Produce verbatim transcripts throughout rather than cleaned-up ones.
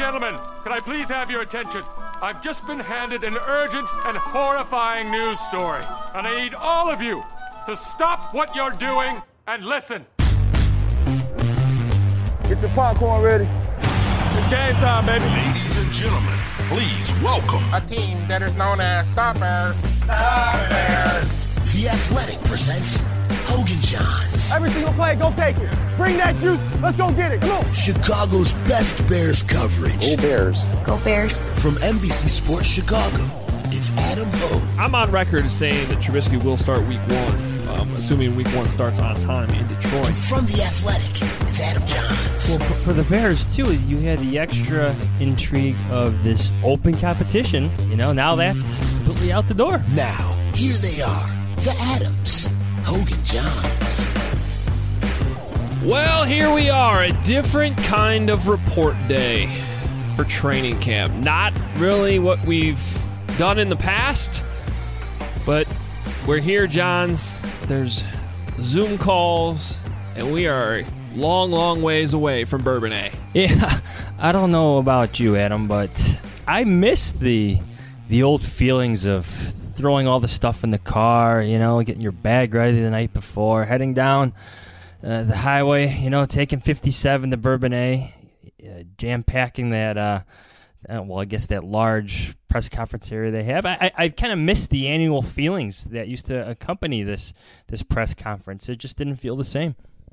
gentlemen, can I please have your attention? I've just been handed an urgent and horrifying news story, and I need all of you to stop what you're doing and listen. Get your popcorn ready. It's game time, baby. Ladies and gentlemen, please welcome a team that is known as Stoppers. Stoppers. The Athletic presents Hogan Johns. Every single play, go take it. Bring that juice. Let's go get it. Come on. Chicago's best Bears coverage. Go Bears. Go Bears. From N B C Sports Chicago, it's Adam Hogue. I'm on record as saying that Trubisky will start week one, um, assuming week one starts on time in Detroit. And from The Athletic, it's Adam Johns. Well, for the Bears, too, you had the extra intrigue of this open competition. You know, now that's completely out the door. Now, here they are, the Adams, Hogan Johns. Well, here we are, a different kind of report day for training camp. Not really what we've done in the past, but we're here, Johns. There's Zoom calls, and we are long, long ways away from Bourbonnais. Yeah, I don't know about you, Adam, but I miss the the old feelings of throwing all the stuff in the car, you know, getting your bag ready the night before, heading down uh, the highway, you know, taking fifty-seven to Bourbonnais, uh, jam-packing that, uh, uh, well, I guess that large press conference area they have. I, I, I kind of miss the annual feelings that used to accompany this this press conference. It just didn't feel the same.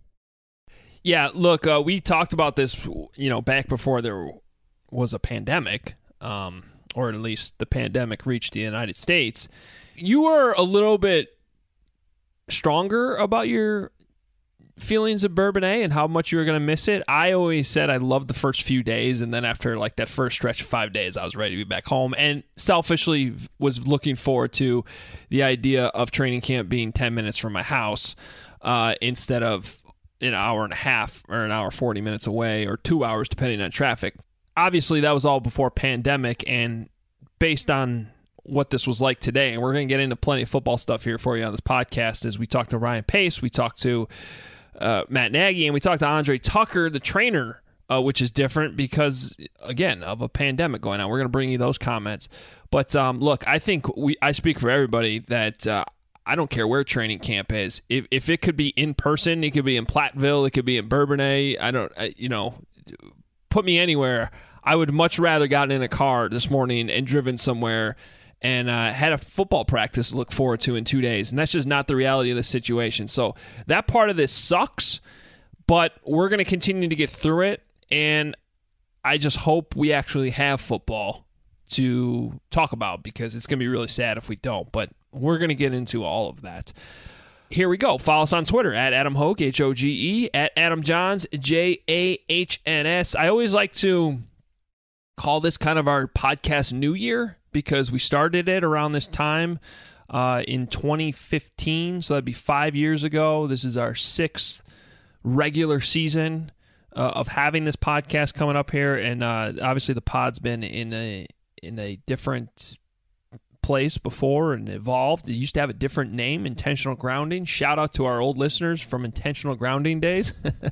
Yeah, look, uh, we talked about this, you know, back before there was a pandemic, um, or at least the pandemic reached the United States. You were a little bit stronger about your feelings of Bourbonnais and how much you were going to miss it. I always said I loved the first few days, and then after like that first stretch of five days, I was ready to be back home, and selfishly was looking forward to the idea of training camp being ten minutes from my house uh, instead of an hour and a half or an hour forty minutes away, or two hours depending on traffic. Obviously, that was all before pandemic, and based on what this was like today, and we're going to get into plenty of football stuff here for you on this podcast, as we talked to Ryan Pace, we talked to uh, Matt Nagy, and we talked to Andre Tucker, the trainer, uh, which is different because, again, of a pandemic going on. We're going to bring you those comments. But um, look, I think we I speak for everybody that uh, I don't care where training camp is. If if it could be in person, it could be in Platteville, it could be in Bourbonnais. I don't, I, you know, put me anywhere. I would much rather gotten in a car this morning and driven somewhere and uh, had a football practice to look forward to in two days. And that's just not the reality of the situation. So that part of this sucks, but we're going to continue to get through it. And I just hope we actually have football to talk about, because it's going to be really sad if we don't. But we're going to get into all of that. Here we go. Follow us on Twitter at Adam Hogue, H O G E, at Adam Johns, J A H N S. I always like to call this kind of our podcast New Year, because we started it around this time uh, in twenty fifteen, so that'd be five years ago. This is our sixth regular season uh, of having this podcast coming up here, and uh, obviously the pod's been in a in a different place before and evolved. It used to have a different name, Intentional Grounding. Shout out to our old listeners from Intentional Grounding days.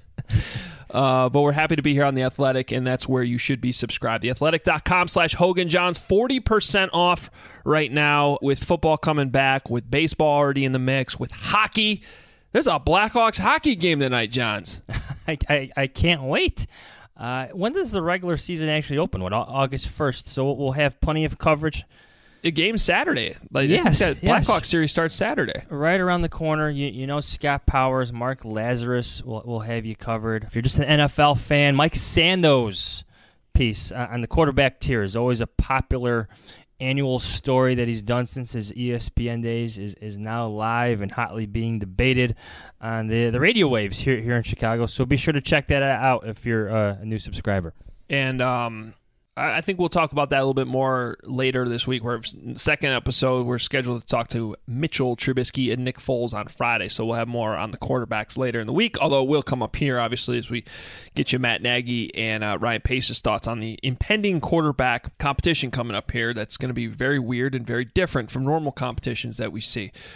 Uh, but we're happy to be here on The Athletic, and that's where you should be subscribed. theathletic.com slash Hogan Johns. forty percent off right now with football coming back, with baseball already in the mix, with hockey. There's a Blackhawks hockey game tonight, Johns. I, I, I can't wait. Uh, when does the regular season actually open? What, August first? So we'll have plenty of coverage. A game Saturday. Like, yes, that yes. Blackhawks series starts Saturday. Right around the corner. You, you know, Scott Powers, Mark Lazarus will, will have you covered. If you're just an N F L fan, Mike Sando's piece on the quarterback tier is always a popular annual story that he's done since his E S P N days, is, is now live and hotly being debated on the, the radio waves here, here in Chicago. So be sure to check that out if you're uh, a new subscriber. And um, I think we'll talk about that a little bit more later this week. We're second episode, we're scheduled to talk to Mitchell Trubisky and Nick Foles on Friday, so we'll have more on the quarterbacks later in the week, although we'll come up here, obviously, as we get you Matt Nagy and uh, Ryan Pace's thoughts on the impending quarterback competition coming up here. That's going to be very weird and very different from normal competitions that we see.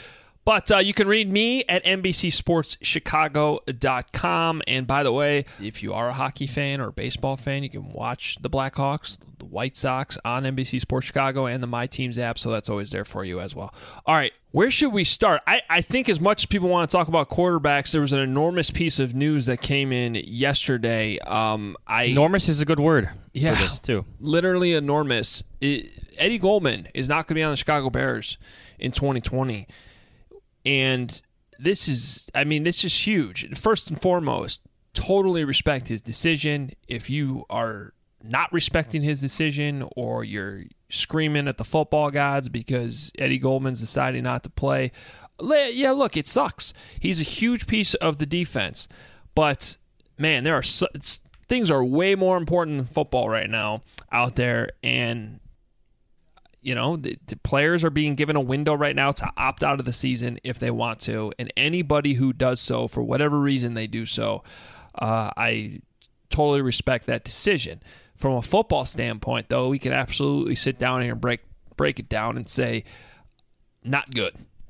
But uh, you can read me at N B C Sports Chicago dot com. And by the way, if you are a hockey fan or a baseball fan, you can watch the Blackhawks, the White Sox on N B C Sports Chicago and the My Teams app, so that's always there for you as well. All right, where should we start? I, I think as much as people want to talk about quarterbacks, there was an enormous piece of news that came in yesterday. Um, I, enormous is a good word yeah, for this, too. Literally enormous. It, Eddie Goldman is not going to be on the Chicago Bears in twenty twenty. And this is, I mean, this is huge. First and foremost, totally respect his decision. If you are not respecting his decision or you're screaming at the football gods because Eddie Goldman's deciding not to play, yeah, look, it sucks. He's a huge piece of the defense. But, man, there are so, things are way more important than football right now out there. And You know, the, the players are being given a window right now to opt out of the season if they want to. And anybody who does so, for whatever reason they do so, uh, I totally respect that decision. From a football standpoint, though, we can absolutely sit down here and break, break it down and say, not good.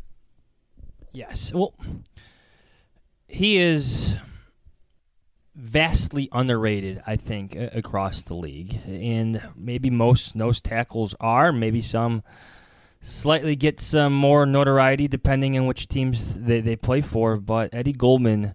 Yes. Well, he is vastly underrated, I think, across the league. And maybe most nose tackles are. Maybe some slightly get some more notoriety depending on which teams they, they play for. But Eddie Goldman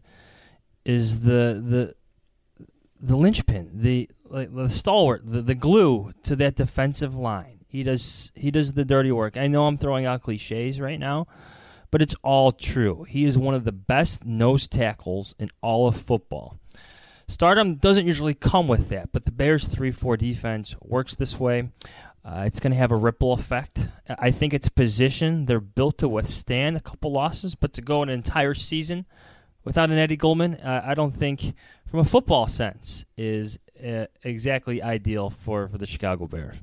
is the the the linchpin, the like, the stalwart, the, the glue to that defensive line. He does he does the dirty work. I know I'm throwing out cliches right now, but it's all true. He is one of the best nose tackles in all of football. Stardom doesn't usually come with that, but the Bears' three four defense works this way. Uh, it's going to have a ripple effect. I think it's position. They're built to withstand a couple losses, but to go an entire season without an Eddie Goldman, uh, I don't think, from a football sense, is uh, exactly ideal for, for the Chicago Bears.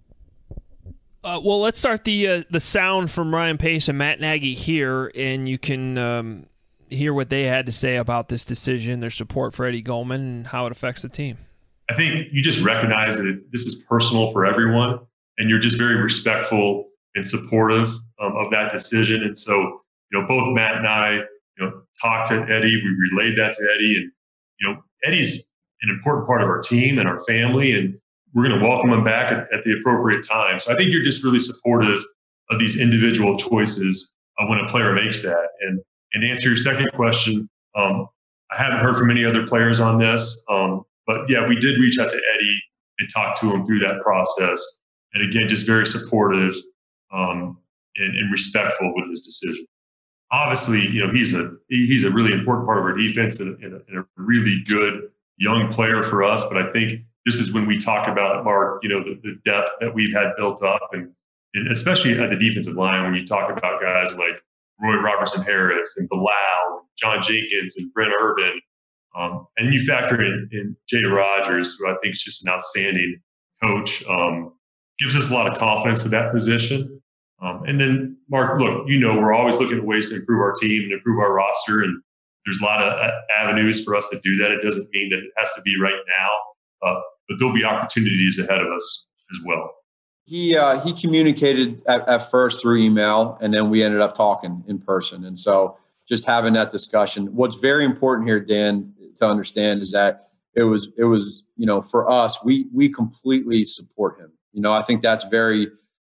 Uh, well, let's start the uh, the sound from Ryan Pace and Matt Nagy here, and you can um, hear what they had to say about this decision, their support for Eddie Goldman, and how it affects the team. I think you just recognize that it, this is personal for everyone, and you're just very respectful and supportive um, of that decision. And so, you know, both Matt and I, you know, talked to Eddie. We relayed that to Eddie, and you know, Eddie's an important part of our team and our family, and we're going to welcome him back at, at the appropriate time. So I think you're just really supportive of these individual choices uh, when a player makes that. And and to answer your second question, um, I haven't heard from any other players on this, um, but yeah, we did reach out to Eddie and talk to him through that process. And again, just very supportive um, and, and respectful with his decision. Obviously, you know, he's a he's a really important part of our defense and, and, a, and a really good young player for us. But I think this is when we talk about, Mark, you know, the, the depth that we've had built up, and, and especially at the defensive line, when you talk about guys like Roy Robertson Harris and Bilal, John Jenkins and Brent Urban. Um, and you factor in, in Jay Rogers, who I think is just an outstanding coach, um, gives us a lot of confidence with that position. Um, and then, Mark, look, you know, we're always looking at ways to improve our team and improve our roster. And there's a lot of avenues for us to do that. It doesn't mean that it has to be right now, uh, but there'll be opportunities ahead of us as well. He uh, he communicated at, at first through email, and then we ended up talking in person. And so just having that discussion. What's very important here, Dan, to understand is that it was it was you know, for us, we we completely support him. You know, I think that's very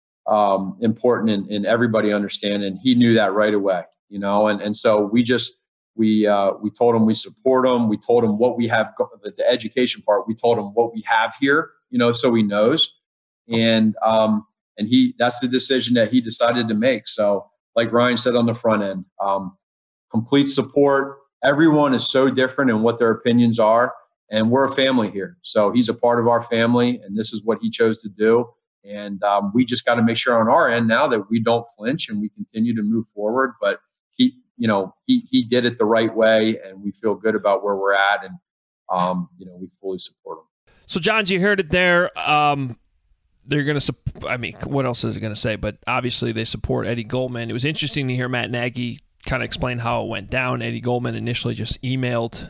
um, important in, in everybody understanding. He knew that right away. You know, and and so we just we uh, we told him we support him. We told him what we have, the, the education part. We told him what we have here. You know, so he knows. And um, and he that's the decision that he decided to make. So, like Ryan said on the front end, um, complete support. Everyone is so different in what their opinions are, and we're a family here. So he's a part of our family, and this is what he chose to do. And um, we just got to make sure on our end now that we don't flinch and we continue to move forward. But he, you know, he he did it the right way, and we feel good about where we're at, and um, you know, we fully support him. So, John, you heard it there. Um, They're going to, I mean, what else is it going to say? But obviously they support Eddie Goldman. It was interesting to hear Matt Nagy kind of explain how it went down. Eddie Goldman initially just emailed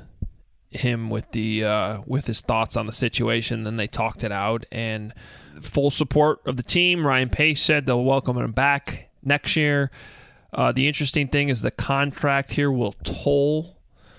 him with the uh, with his thoughts on the situation. Then they talked it out, and full support of the team. Ryan Pace said they'll welcome him back next year. Uh, the interesting thing is the contract here will toll.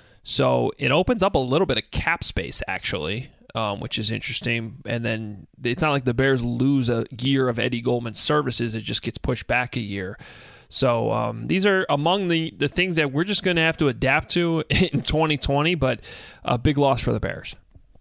So it opens up a little bit of cap space, actually, um, which is interesting. And then it's not like the Bears lose a year of Eddie Goldman's services. It just gets pushed back a year. So um, these are among the, the things that we're just going to have to adapt to in twenty twenty, but a big loss for the Bears.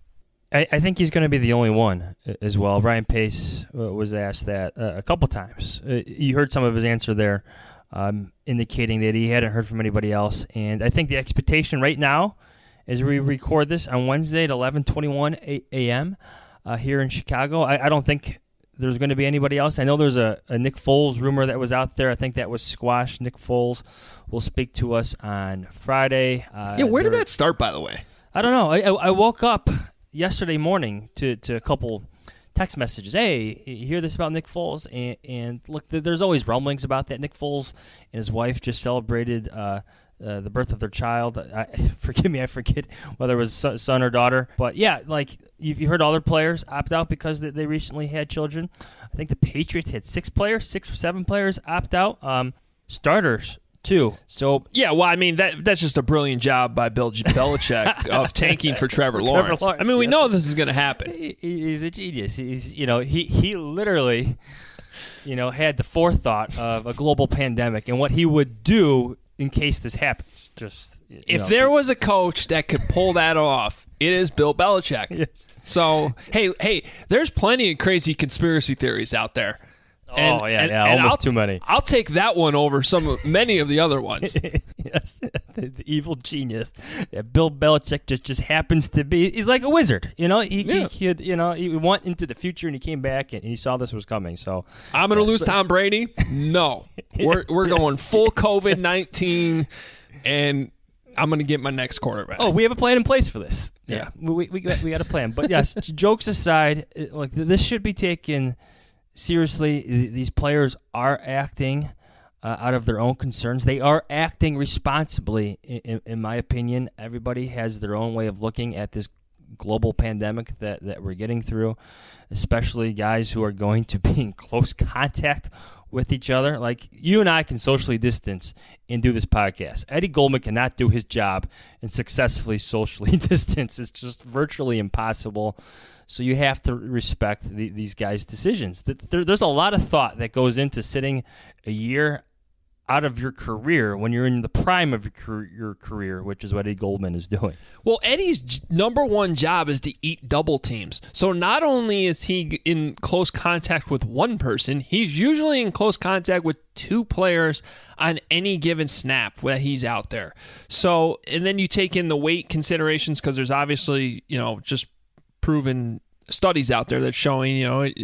I, I think he's going to be the only one as well. Ryan Pace was asked that uh, a couple times. Uh, you heard some of his answer there, um, indicating that he hadn't heard from anybody else. And I think the expectation right now, as we record this on Wednesday at eleven twenty-one a.m. Uh, here in Chicago, I, I don't think there's going to be anybody else. I know there's a, a Nick Foles rumor that was out there. I think that was squashed. Nick Foles will speak to us on Friday. Uh, yeah, where did that start, by the way? I don't know. I, I, I woke up yesterday morning to, to a couple text messages. Hey, you hear this about Nick Foles? And, and look, there's always rumblings about that. Nick Foles and his wife just celebrated uh, uh, the birth of their child. I, forgive me, I forget whether it was son or daughter. But yeah, like you, you heard other players opt out because they, they recently had children. I think the Patriots had six players, six or seven players opt out. Um, starters too. So yeah, well, I mean that that's just a brilliant job by Bill Belichick of tanking for Trevor, for Lawrence. Trevor Lawrence. I mean, we yes. know this is going to happen. He, he's a genius. He's you know he he literally you know had the forethought of a global pandemic and what he would do in case this happens. Just if know. there was a coach that could pull that off, it is Bill Belichick. Yes. So hey, hey, there's plenty of crazy conspiracy theories out there. And, oh yeah, and, yeah, and almost I'll, too many. I'll take that one over some many of the other ones. Yes, the, the evil genius that Bill Belichick just, just happens to be. He's like a wizard, you know. He, yeah. he could, you know, he went into the future and he came back and he saw this was coming. So I'm going to yes, lose but, Tom Brady. No, we're we're yes, going full yes. COVID nineteen, and I'm going to get my next quarterback. Oh, we have a plan in place for this. Yeah, yeah. we we got, we got a plan. But yes, jokes aside, like this should be taken seriously. These players are acting uh, out of their own concerns. They are acting responsibly, in, in my opinion. Everybody has their own way of looking at this global pandemic that, that we're getting through, especially guys who are going to be in close contact with each other. Like, you and I can socially distance and do this podcast. Eddie Goldman cannot do his job and successfully socially distance. It's just virtually impossible. So you have to respect the, these guys' decisions. There, there's a lot of thought that goes into sitting a year out of your career when you're in the prime of your career, your career, which is what Eddie Goldman is doing. Well, Eddie's j- number one job is to eat double teams. So not only is he in close contact with one person, he's usually in close contact with two players on any given snap that he's out there. So, and then you take in the weight considerations because there's obviously, you know, just proven studies out there that's showing, you know,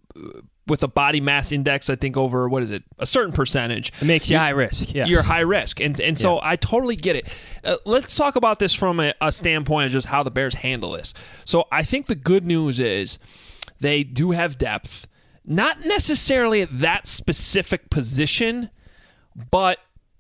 with a body mass index, I think over, what is it, a certain percentage. It makes you high risk. Yes. You're high risk. And and so yeah. I totally get it. Uh, let's talk about this from a, a standpoint of just how the Bears handle this. So I think the good news is they do have depth, not necessarily at that specific position, but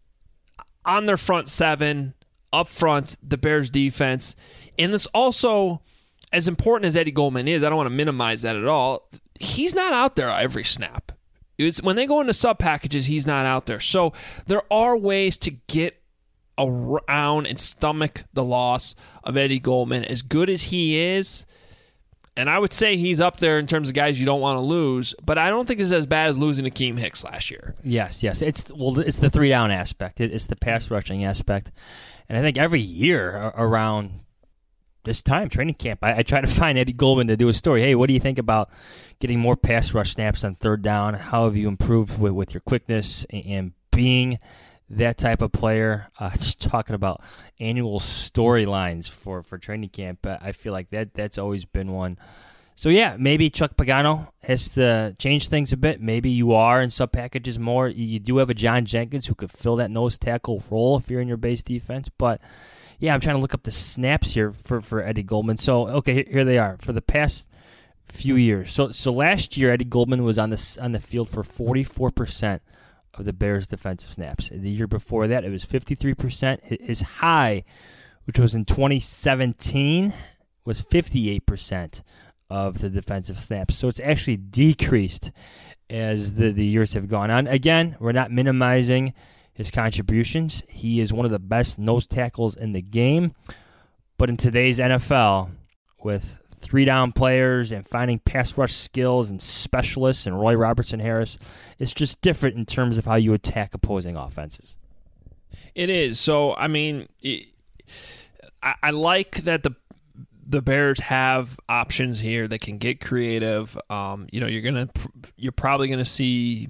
on their front seven, up front, the Bears defense. And this also, as important as Eddie Goldman is, I don't want to minimize that at all. He's not out there every snap. It's when they go into sub packages, he's not out there. So there are ways to get around and stomach the loss of Eddie Goldman. As good as he is, and I would say he's up there in terms of guys you don't want to lose, but I don't think it's as bad as losing Akeem Hicks last year. Yes, yes. It's well, it's the three down aspect. It's the pass rushing aspect, and I think every year around this time, training camp, I, I try to find Eddie Goldman to do a story. Hey, what do you think about getting more pass rush snaps on third down? How have you improved with, with your quickness and, and being that type of player? Uh, just talking about annual storylines for, for training camp, uh, I feel like that that's always been one. So, yeah, maybe Chuck Pagano has to change things a bit. Maybe you are in sub packages more. You do have a John Jenkins who could fill that nose tackle role if you're in your base defense, but yeah, I'm trying to look up the snaps here for, for Eddie Goldman. So, okay, here they are for the past few years. So, so last year, Eddie Goldman was on the on the field for forty-four percent of the Bears' defensive snaps. The year before that, it was fifty-three percent. His high, which was in twenty seventeen, was fifty-eight percent of the defensive snaps. So it's actually decreased as the, the years have gone on. Again, we're not minimizing his contributions. He is one of the best nose tackles in the game. But in today's N F L, with three-down players and finding pass rush skills and specialists and Roy Robertson Harris, it's just different in terms of how you attack opposing offenses. It is. So, I mean, it, I, I like that the the Bears have options here that can get creative. Um, you know, you're gonna you're probably gonna see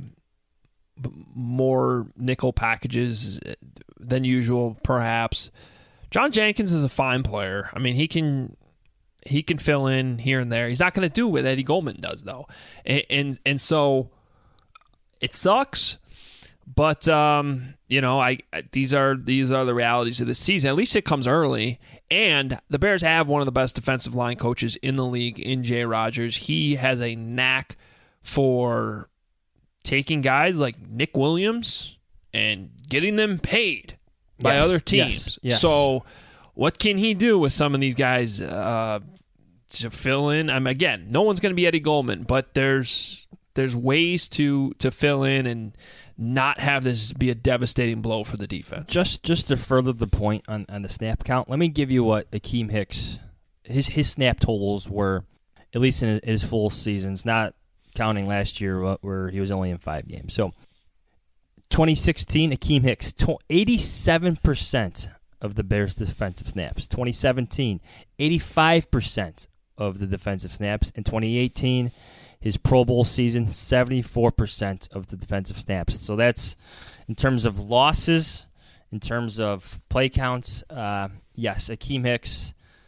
more nickel packages than usual, perhaps. John Jenkins is a fine player. I mean, he can he can fill in here and there. He's not going to do what Eddie Goldman does, though, and and, and so it sucks. But um, you know, I, I these are these are the realities of the season. At least it comes early, and the Bears have one of the best defensive line coaches in the league in Jay Rodgers. He has a knack for taking guys like Nick Williams and getting them paid by yes, other teams. Yes, yes. So what can he do with some of these guys uh, to fill in? I mean, again, no one's going to be Eddie Goldman, but there's there's ways to to fill in and not have this be a devastating blow for the defense. Just just to further the point on, on the snap count, let me give you what Akeem Hicks, his his snap totals were, at least in his full seasons, not counting last year where he was only in five games. So twenty sixteen, Akeem Hicks, eighty-seven percent of the Bears' defensive snaps. twenty seventeen, eighty-five percent of the defensive snaps. In twenty eighteen, his Pro Bowl season, seventy-four percent of the defensive snaps. So that's in terms of losses, in terms of play counts. Uh, yes, Akeem Hicks,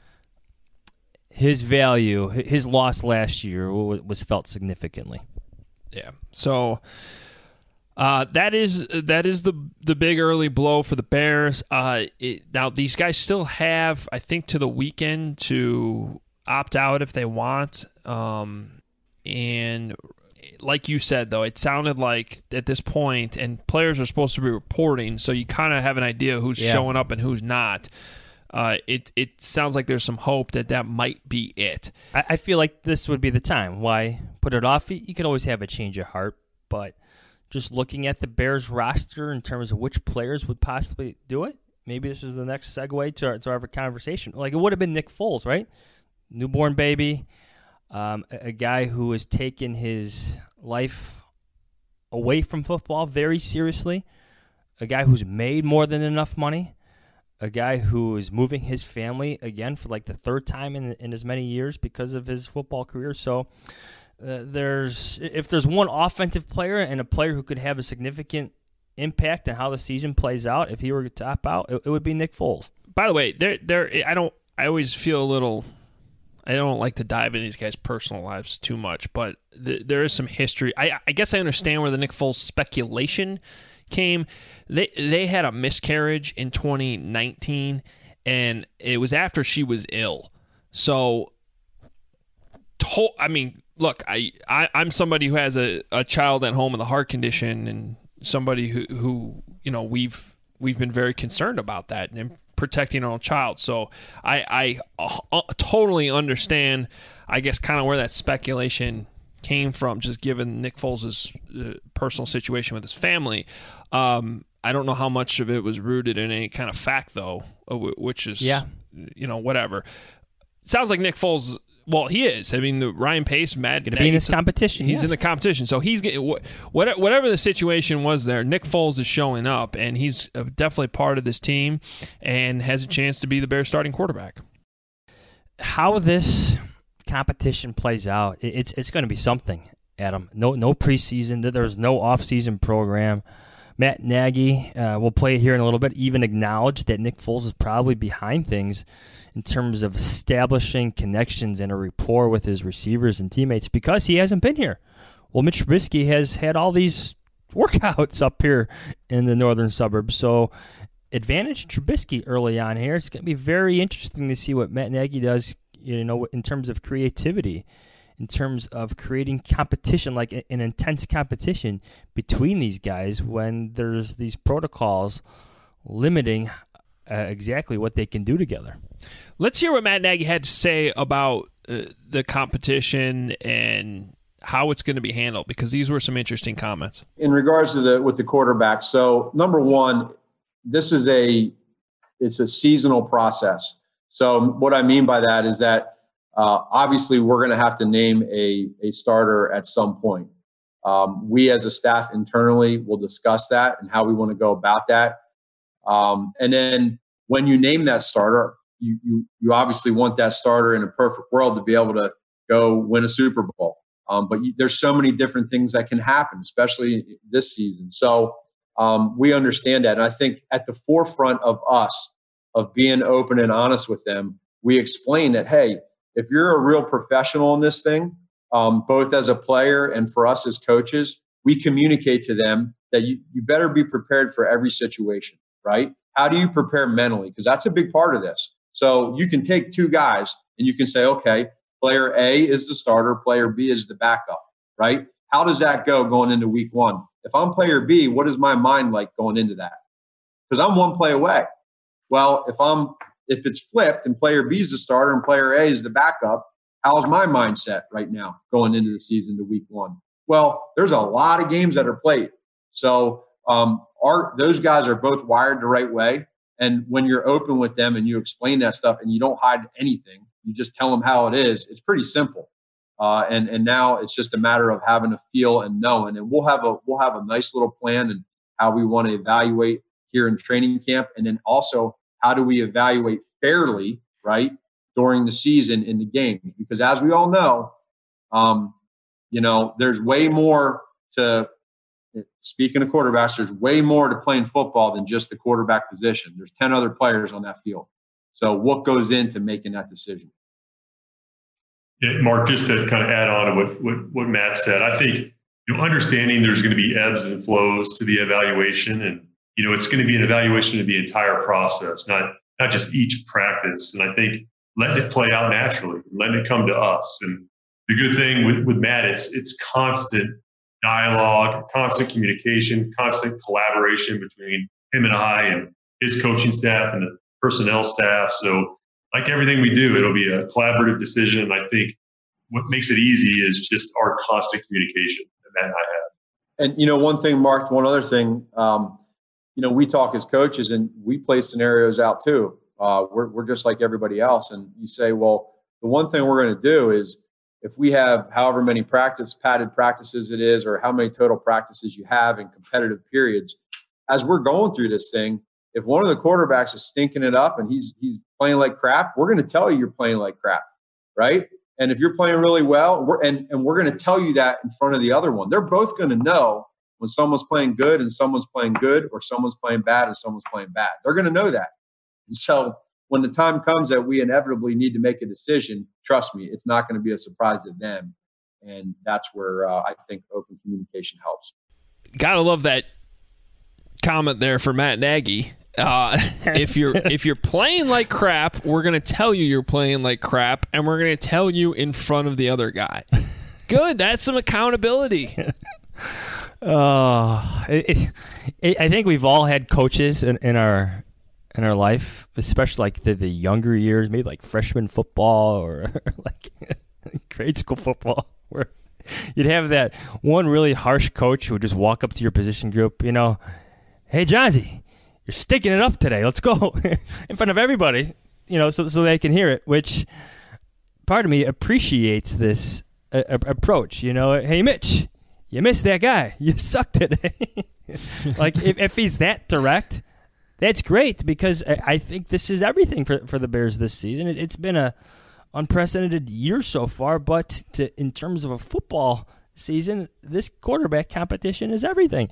his value, his loss last year was felt significantly. Yeah. So uh, that is that is the the big early blow for the Bears. Uh, it, now these guys still have, I think, to the weekend to opt out if they want. Um, and like you said, though, it sounded like at this point, and players are supposed to be reporting, so you kind of have an idea who's yeah. showing up and who's not. Uh, it it sounds like there's some hope that that might be it. I, I feel like this would be the time. Why put it off? You could always have a change of heart, but just looking at the Bears roster in terms of which players would possibly do it, maybe this is the next segue to our, to our conversation. Like, it would have been Nick Foles, right? Newborn baby, um, a, a guy who has taken his life away from football very seriously, a guy who's made more than enough money, a guy who is moving his family again for like the third time in in as many years because of his football career. So uh, there's if there's one offensive player and a player who could have a significant impact on how the season plays out, if he were to top out, it, it would be Nick Foles. By the way, there there I don't I always feel a little. I don't like to dive into these guys' personal lives too much, but th- there is some history. I, I guess I understand where the Nick Foles speculation came. They they had a miscarriage in twenty nineteen, and it was after she was ill. So, to, I mean, look, I, I I'm somebody who has a, a child at home with a heart condition, and somebody who, who you know we've we've been very concerned about that and protecting our own child. So I I uh, totally understand, I guess, kind of where that speculation came from, just given Nick Foles' uh, personal situation with his family. Um, I don't know how much of it was rooted in any kind of fact, though, which is, yeah. you know, whatever. It sounds like Nick Foles, well, he is. I mean, the Ryan Pace, Matt going to be in this competition. He's yes. in the competition. So he's getting, whatever the situation was there, Nick Foles is showing up, and he's definitely part of this team and has a chance to be the Bears starting quarterback. How this competition plays out, it's it's going to be something, Adam. No no preseason. There's no offseason program. Matt Nagy uh, will play here in a little bit, even acknowledge that Nick Foles is probably behind things in terms of establishing connections and a rapport with his receivers and teammates because he hasn't been here. Well, Mitch Trubisky has had all these workouts up here in the northern suburbs, so advantage Trubisky early on here. It's going to be very interesting to see what Matt Nagy does, you know, in terms of creativity, in terms of creating competition, like an intense competition between these guys when there's these protocols limiting uh, exactly what they can do together. Let's hear what Matt Nagy had to say about uh, the competition and how it's going to be handled, because these were some interesting comments. In regards to the with the quarterback, so number one, this is a it's a seasonal process. So what I mean by that is that uh, obviously we're going to have to name a a starter at some point. Um, we as a staff internally will discuss that and how we want to go about that. Um, and then when you name that starter, you, you you obviously want that starter in a perfect world to be able to go win a Super Bowl. Um, but you, there's so many different things that can happen, especially this season. So um, we understand that. And I think at the forefront of us, of being open and honest with them, we explain that, hey, if you're a real professional in this thing, um, both as a player and for us as coaches, we communicate to them that you, you better be prepared for every situation, right? How do you prepare mentally? Because that's a big part of this. So you can take two guys and you can say, okay, player A is the starter, player B is the backup, right? How does that go going into week one? If I'm player B, what is my mind like going into that? Because I'm one play away. Well, if I'm if it's flipped and player B is the starter and player A is the backup, how's my mindset right now going into the season to week one? Well, there's a lot of games that are played. So um, our those guys are both wired the right way. And when you're open with them and you explain that stuff and you don't hide anything, you just tell them how it is, it's pretty simple. Uh, and and now it's just a matter of having a feel and knowing. And we'll have a we'll have a nice little plan and how we want to evaluate here in training camp, and then also how do we evaluate fairly, right, during the season in the game? Because as we all know, um, you know, there's way more to. Speaking of quarterbacks, there's way more to playing football than just the quarterback position. There's ten other players on that field. So what goes into making that decision? Yeah, Mark, just to kind of add on to what, what, what Matt said, I think, you know, understanding there's going to be ebbs and flows to the evaluation, and, you know, it's going to be an evaluation of the entire process, not, not just each practice. And I think letting it play out naturally, letting it come to us. And the good thing with, with Matt, it's, it's constant dialogue, constant communication, constant collaboration between him and I and his coaching staff and the personnel staff. So like everything we do, it'll be a collaborative decision. And I think what makes it easy is just our constant communication that Matt and I have. And, you know, one thing, Mark, one other thing, um, you know, we talk as coaches and we play scenarios out too. Uh, we're, we're just like everybody else. And you say, well, the one thing we're going to do is if we have however many practice padded practices it is, or how many total practices you have in competitive periods, as we're going through this thing, if one of the quarterbacks is stinking it up and he's he's playing like crap, we're going to tell you you're playing like crap, right? And if you're playing really well, we're, and, and we're going to tell you that in front of the other one. They're both going to know when someone's playing good and someone's playing good, or someone's playing bad and someone's playing bad. They're going to know that. And so when the time comes that we inevitably need to make a decision, trust me, it's not going to be a surprise to them. And that's where uh, I think open communication helps. Gotta love that comment there for Matt Nagy. Uh, if you're if you're playing like crap, we're going to tell you you're playing like crap, and we're going to tell you in front of the other guy. Good, that's some accountability. Oh, it, it, I think we've all had coaches in, in our in our life, especially like the, the younger years, maybe like freshman football or like grade school football, where you'd have that one really harsh coach who would just walk up to your position group, you know, hey, Johnsy, you're sticking it up today. Let's go in front of everybody, you know, so so they can hear it, which part of me appreciates this uh, approach, you know, hey, Mitch, you missed that guy. You suck today. Like, if, if he's that direct, that's great, because I, I think this is everything for, for the Bears this season. It, it's been a unprecedented year so far, but to, in terms of a football season, this quarterback competition is everything.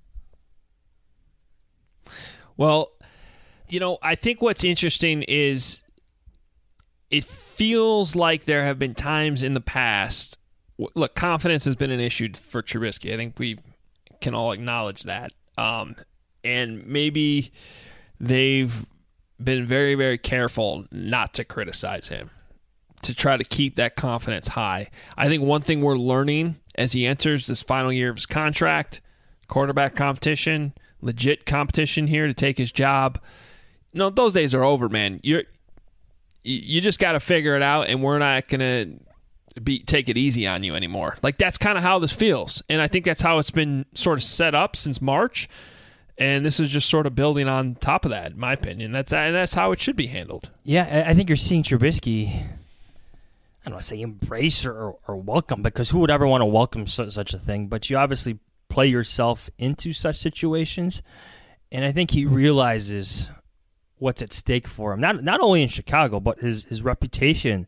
Well, you know, I think what's interesting is it feels like there have been times in the past. Look, confidence has been an issue for Trubisky. I think we can all acknowledge that. Um, and maybe they've been very, very careful not to criticize him, to try to keep that confidence high. I think one thing we're learning as he enters this final year of his contract, quarterback competition, legit competition here to take his job. You know, those days are over, man. You're you just got to figure it out, and we're not going to be take it easy on you anymore. Like, that's kind of how this feels. And I think that's how it's been sort of set up since March. And this is just sort of building on top of that, in my opinion. That's and that's how it should be handled. Yeah, I think you're seeing Trubisky, I don't want to say embrace or, or welcome, because who would ever want to welcome such, such a thing? But you obviously play yourself into such situations. And I think he realizes what's at stake for him. Not not only in Chicago, but his, his reputation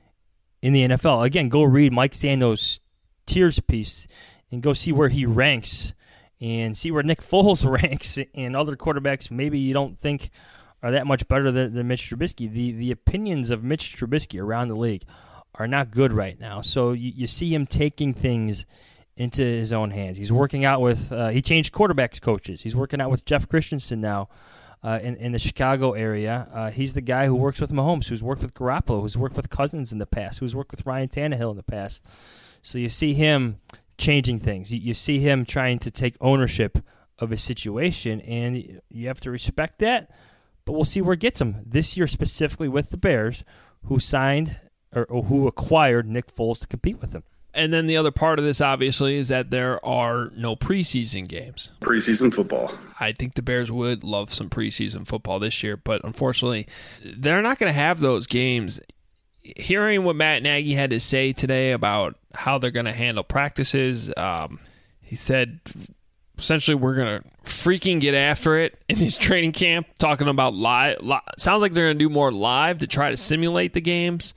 in the N F L. Again, go read Mike Sando's Tiers piece and go see where he ranks and see where Nick Foles ranks and other quarterbacks maybe you don't think are that much better than, than Mitch Trubisky. The the opinions of Mitch Trubisky around the league are not good right now. So you, you see him taking things into his own hands. He's working out with, uh, he changed quarterbacks coaches. He's working out with Jeff Christensen now uh, in, in the Chicago area. Uh, he's the guy who works with Mahomes, who's worked with Garoppolo, who's worked with Cousins in the past, who's worked with Ryan Tannehill in the past. So you see him changing things. You, you see him trying to take ownership of his situation, and you have to respect that. But we'll see where it gets him. This year specifically with the Bears, who signed or, or who acquired Nick Foles to compete with him. And then the other part of this, obviously, is that there are no preseason games. Preseason football. I think the Bears would love some preseason football this year, but unfortunately, they're not going to have those games. Hearing what Matt Nagy had to say today about how they're going to handle practices, um, he said, essentially, we're going to freaking get after it in this training camp, talking about live. Li- sounds like they're going to do more live to try to simulate the games.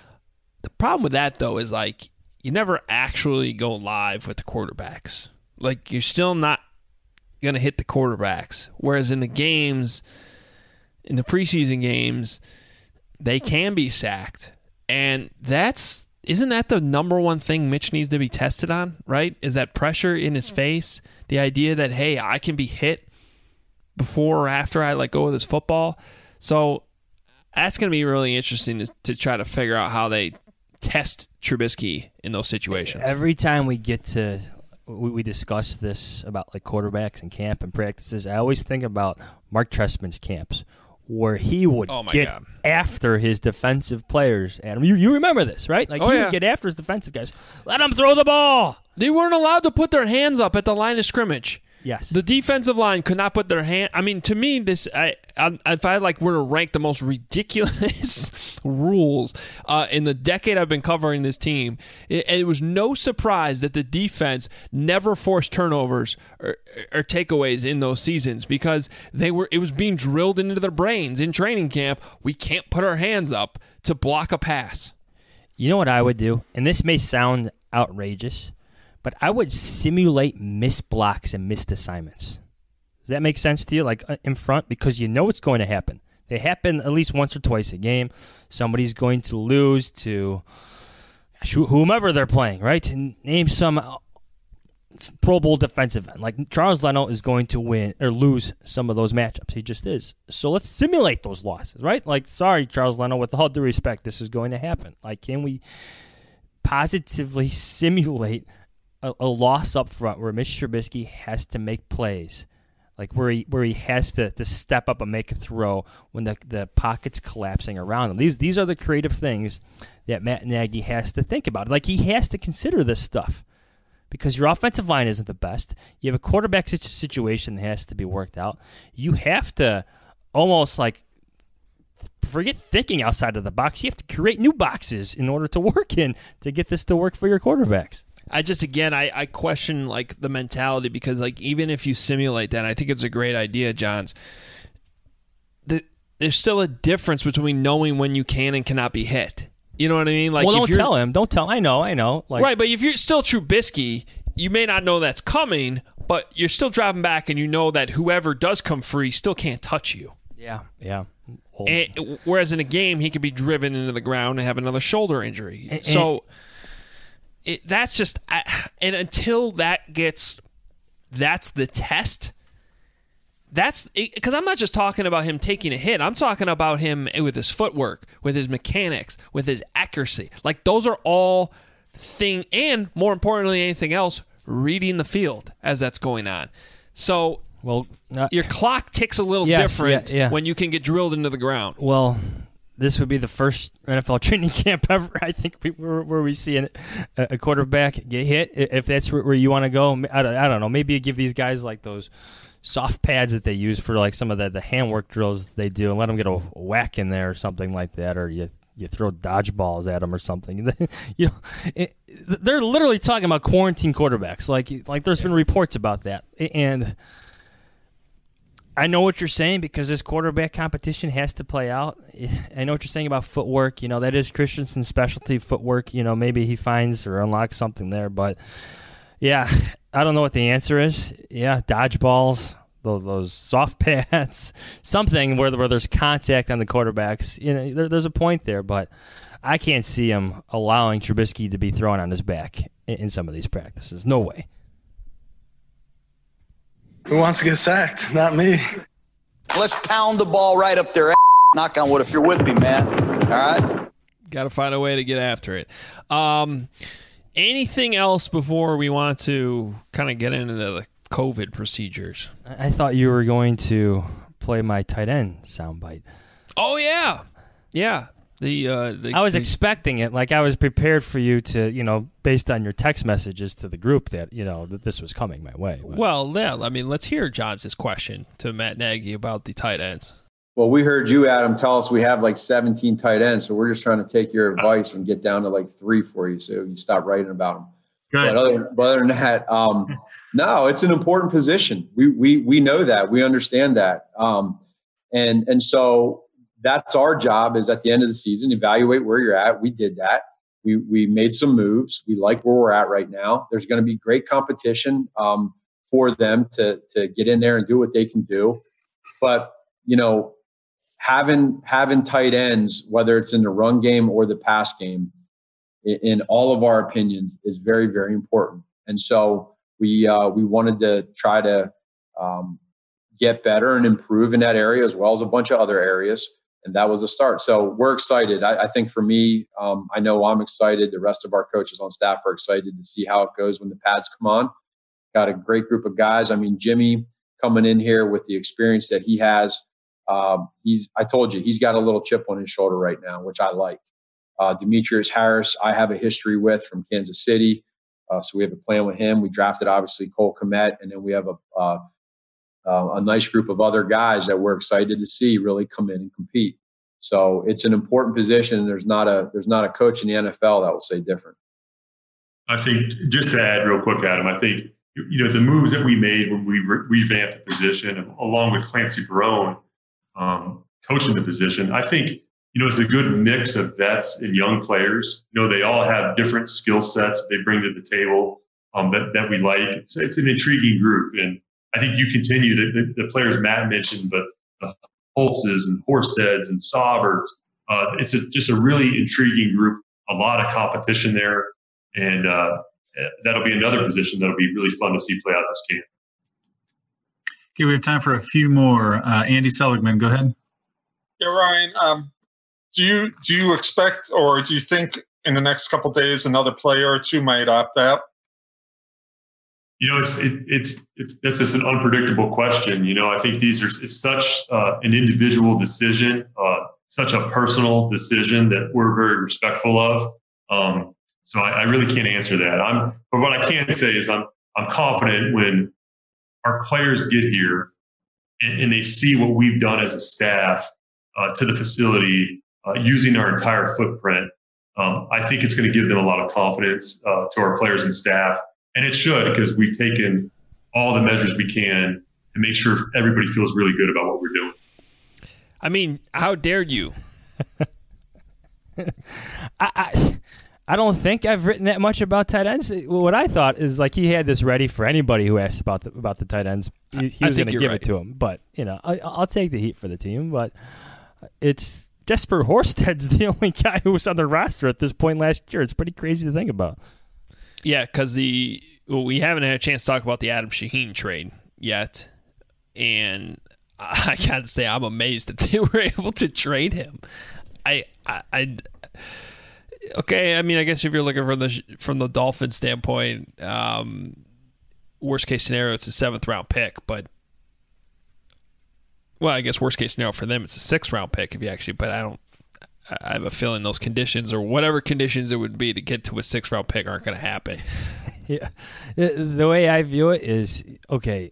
The problem with that, though, is like, you never actually go live with the quarterbacks. Like, you're still not going to hit the quarterbacks. Whereas in the games, in the preseason games, they can be sacked. And that's, isn't that the number one thing Mitch needs to be tested on, right? Is that pressure in his face? The idea that, hey, I can be hit before or after I let go of this football. So that's going to be really interesting to, to try to figure out how they test Trubisky in those situations. Every time we get to, we, we discuss this about like quarterbacks and camp and practices, I always think about Mark Trestman's camps where he would oh my get God. after his defensive players. Adam, you, you remember this, right? Like oh, he yeah. would get after his defensive guys. Let them throw the ball. They weren't allowed to put their hands up at the line of scrimmage. Yes. The defensive line could not put their hand. I mean, to me, this I, I if I like were to rank the most ridiculous rules uh, in the decade I've been covering this team, it, it was no surprise that the defense never forced turnovers or, or takeaways in those seasons because they were. It was being drilled into their brains in training camp. We can't put our hands up to block a pass. You know what I would do, and this may sound outrageous, but I would simulate missed blocks and missed assignments. Does that make sense to you? Like in front? Because you know it's going to happen. They happen at least once or twice a game. Somebody's going to lose to whomever they're playing, right? And name some Pro Bowl defensive end. Like Charles Leno is going to win or lose some of those matchups. He just is. So let's simulate those losses, right? Like, sorry, Charles Leno, with all due respect, this is going to happen. Like, can we positively simulate A, a loss up front where Mitch Trubisky has to make plays, like where he where he has to, to step up and make a throw when the, the pocket's collapsing around him. These these are the creative things that Matt Nagy has to think about. Like he has to consider this stuff because your offensive line isn't the best. You have a quarterback situation that has to be worked out. You have to almost like forget thinking outside of the box. You have to create new boxes in order to work in to get this to work for your quarterbacks. I just, again, I, I question, like, the mentality because, like, even if you simulate that, I think it's a great idea, Johns, the, there's still a difference between knowing when you can and cannot be hit. You know what I mean? Like, well, if don't you're, tell him. Don't tell I know, I know. Like, right, but if you're still Trubisky, you may not know that's coming, but you're still dropping back and you know that whoever does come free still can't touch you. Yeah, yeah. Well, And, whereas in a game, he could be driven into the ground and have another shoulder injury. And, so... It, that's just, and until that gets, that's the test. That's because I'm not just talking about him taking a hit. I'm talking about him with his footwork, with his mechanics, with his accuracy. Like those are all thing, and more importantly, anything else, reading the field as that's going on. So, well, uh, your clock ticks a little yes, different yeah, yeah. when you can get drilled into the ground. Well, this would be the first N F L training camp ever, I think, we, where, where we see an, a quarterback get hit. If that's where, where you want to go, I don't, I don't know. Maybe you give these guys like those soft pads that they use for like some of the, the handwork drills they do and let them get a whack in there or something like that, or you you throw dodgeballs at them or something. you know, it, they're literally talking about quarantine quarterbacks. Like like there's been reports about that, and I know what you're saying because this quarterback competition has to play out. I know what you're saying about footwork. You know, that is Christensen's specialty, footwork. You know, maybe he finds or unlocks something there. But, yeah, I don't know what the answer is. Yeah, dodgeballs, those soft pads, something where, where there's contact on the quarterbacks. You know, there, there's a point there, but I can't see him allowing Trubisky to be thrown on his back in, in some of these practices. No way. Who wants to get sacked? Not me. Let's pound the ball right up there. Knock on wood if you're with me, man. All right? Got to find a way to get after it. Um, anything else before we want to kind of get into the COVID procedures? I thought you were going to play my tight end soundbite. Oh, yeah. Yeah. The, uh, the I was the, expecting it. Like I was prepared for you to, you know, based on your text messages to the group that, you know, that this was coming my way. But. Well, yeah, I mean, let's hear Johns' question to Matt Nagy about the tight ends. Well, we heard you, Adam, tell us we have like seventeen tight ends, so we're just trying to take your advice and get down to like three for you, so you stop writing about them. But other, but other than that, um, no, it's an important position. We we we know that. We understand that. Um, and and so that's our job is at the end of the season, evaluate where you're at. We did that. We we made some moves. We like where we're at right now. There's going to be great competition um, for them to to get in there and do what they can do. But, you know, having having tight ends, whether it's in the run game or the pass game, in, in all of our opinions, is very, very important. And so we uh, we wanted to try to um, get better and improve in that area as well as a bunch of other areas. And that was a start. So we're excited. I, I think for me, um, I know I'm excited. The rest of our coaches on staff are excited to see how it goes when the pads come on. Got a great group of guys. I mean, Jimmy coming in here with the experience that he has. Um, he's, I told you, he's got a little chip on his shoulder right now, which I like. Uh, Demetrius Harris, I have a history with from Kansas City. Uh, so we have a plan with him. We drafted, obviously, Cole Kmet, and then we have a uh, Uh, a nice group of other guys that we're excited to see really come in and compete. So it's an important position. There's not a there's not a coach in the N F L that will say different. I think just to add real quick, Adam, I think you know the moves that we made when we re- revamped the position, along with Clancy Barone um, coaching the position. I think you know it's a good mix of vets and young players. You know they all have different skill sets they bring to the table um, that that we like. It's, it's an intriguing group, and I think you continue the, the, the players Matt mentioned, but the Holtzes and Horsteds and Sauberts. Uh, it's a, just a really intriguing group, a lot of competition there. And uh, that'll be another position that'll be really fun to see play out this camp. Okay, we have time for a few more. Uh, Andy Seligman, go ahead. Yeah, Ryan, um, do you do you expect or do you think in the next couple of days another player or two might opt out? You know, it's it, it's it's that's just an unpredictable question. You know, I think these are it's such uh, an individual decision, uh, such a personal decision that we're very respectful of. Um, so I, I really can't answer that. I'm, but what I can say is I'm I'm confident when our players get here and, and they see what we've done as a staff uh, to the facility uh, using our entire footprint. Um, I think it's going to give them a lot of confidence uh, to our players and staff. And it should, because we've taken all the measures we can to make sure everybody feels really good about what we're doing. I mean, how dared you? I, I I don't think I've written that much about tight ends. What I thought is like he had this ready for anybody who asked about the, about the tight ends. He, he was going to give right. it to him. But, you know, I, I'll take the heat for the team. But it's Jesper Horsted's the only guy who was on the roster at this point last year. It's pretty crazy to think about. Yeah, because the well, we haven't had a chance to talk about the Adam Shaheen trade yet, and I gotta say I'm amazed that they were able to trade him. I, I, I okay. I mean, I guess if you're looking from the from the Dolphins standpoint, um, worst case scenario, it's a seventh round pick, but well, I guess worst case scenario for them, it's a sixth round pick if you actually. But I don't. I have a feeling those conditions or whatever conditions it would be to get to a sixth round pick aren't going to happen. Yeah. The way I view it is, okay,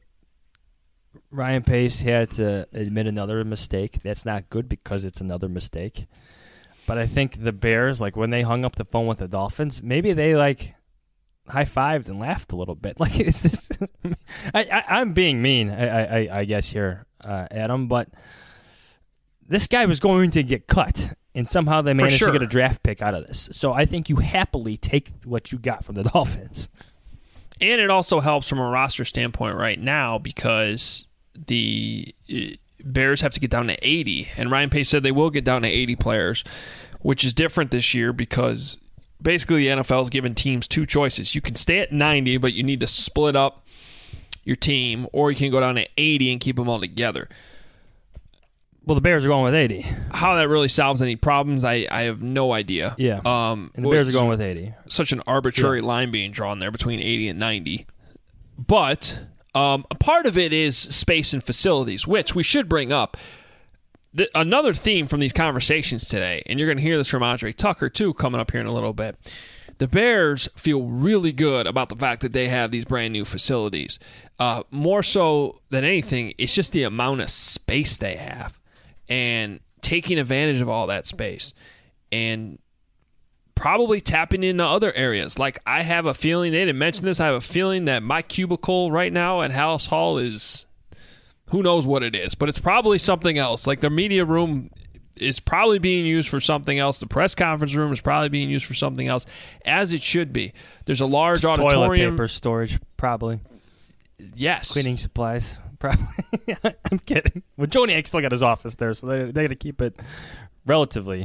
Ryan Pace had to admit another mistake. That's not good because it's another mistake. But I think the Bears, like when they hung up the phone with the Dolphins, maybe they like high-fived and laughed a little bit. Like, is this? I, I, I'm being mean, I, I, I guess here, uh, Adam. But this guy was going to get cut, and somehow they managed sure. to get a draft pick out of this. So I think you happily take what you got from the Dolphins. And it also helps from a roster standpoint right now because the Bears have to get down to eighty, and Ryan Pace said they will get down to eighty players, which is different this year because basically the N F L has given teams two choices. You can stay at ninety, but you need to split up your team, or you can go down to eighty and keep them all together. Well, the Bears are going with eighty. How that really solves any problems, I, I have no idea. Yeah, um, and the Bears are going with eighty. Such an arbitrary yeah. line being drawn there between eighty and ninety. But um, a part of it is space and facilities, which we should bring up. The, another theme from these conversations today, and you're going to hear this from Andre Tucker, too, coming up here in a little bit. The Bears feel really good about the fact that they have these brand new facilities. Uh, more so than anything, it's just the amount of space they have and taking advantage of all that space and probably tapping into other areas. Like, I have a feeling, they didn't mention this, I have a feeling that my cubicle right now at Halas Hall is, who knows what it is, but it's probably something else. Like, the media room is probably being used for something else. The press conference room is probably being used for something else, as it should be. There's a large Toilet auditorium. Paper storage, probably. Yes. Cleaning supplies, probably. I'm kidding. Well, Joniak still got his office there, so they they got to keep it relatively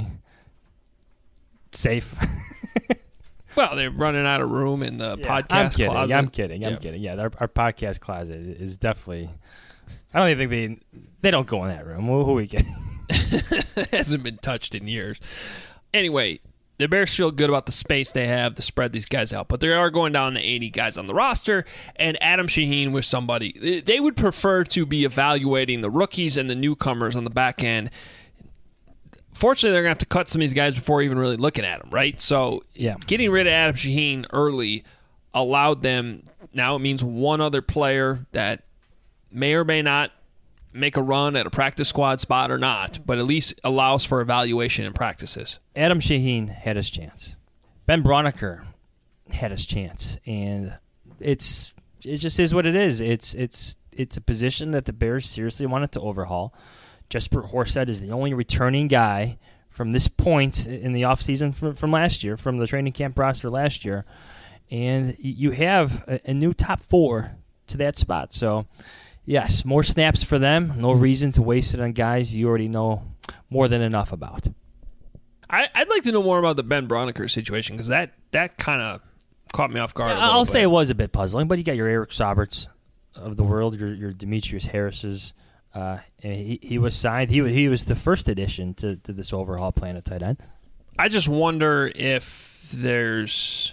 safe. Well, they're running out of room in the yeah, podcast I'm kidding, closet. I'm kidding. I'm yeah. kidding. Yeah, our, our podcast closet is definitely. I don't even think they they don't go in that room. Who, who are we kidding? Hasn't been touched in years. Anyway, the Bears feel good about the space they have to spread these guys out, but they are going down to eighty guys on the roster, and Adam Shaheen was somebody. They would prefer to be evaluating the rookies and the newcomers on the back end. Fortunately, they're going to have to cut some of these guys before even really looking at them, right? So yeah. Getting rid of Adam Shaheen early allowed them, now it means one other player that may or may not make a run at a practice squad spot or not, but at least allows for evaluation in practices. Adam Shaheen had his chance. Ben Braunecker had his chance, and it's it just is what it is. It's it's it's a position that the Bears seriously wanted to overhaul. Jesper Horsted is the only returning guy from this point in the offseason from, from last year, from the training camp roster last year, and you have a, a new top four to that spot. So, yes, more snaps for them. No reason to waste it on guys you already know more than enough about. I, I'd like to know more about the Ben Braunecker situation because that, that kind of caught me off guard. Yeah, a little I'll bit. say it was a bit puzzling, but you got your Eric Sauberts of the world, your your Demetrius Harris's. Uh, and he he was signed. He he was the first addition to, to this overhaul plan at tight end. I just wonder if there's,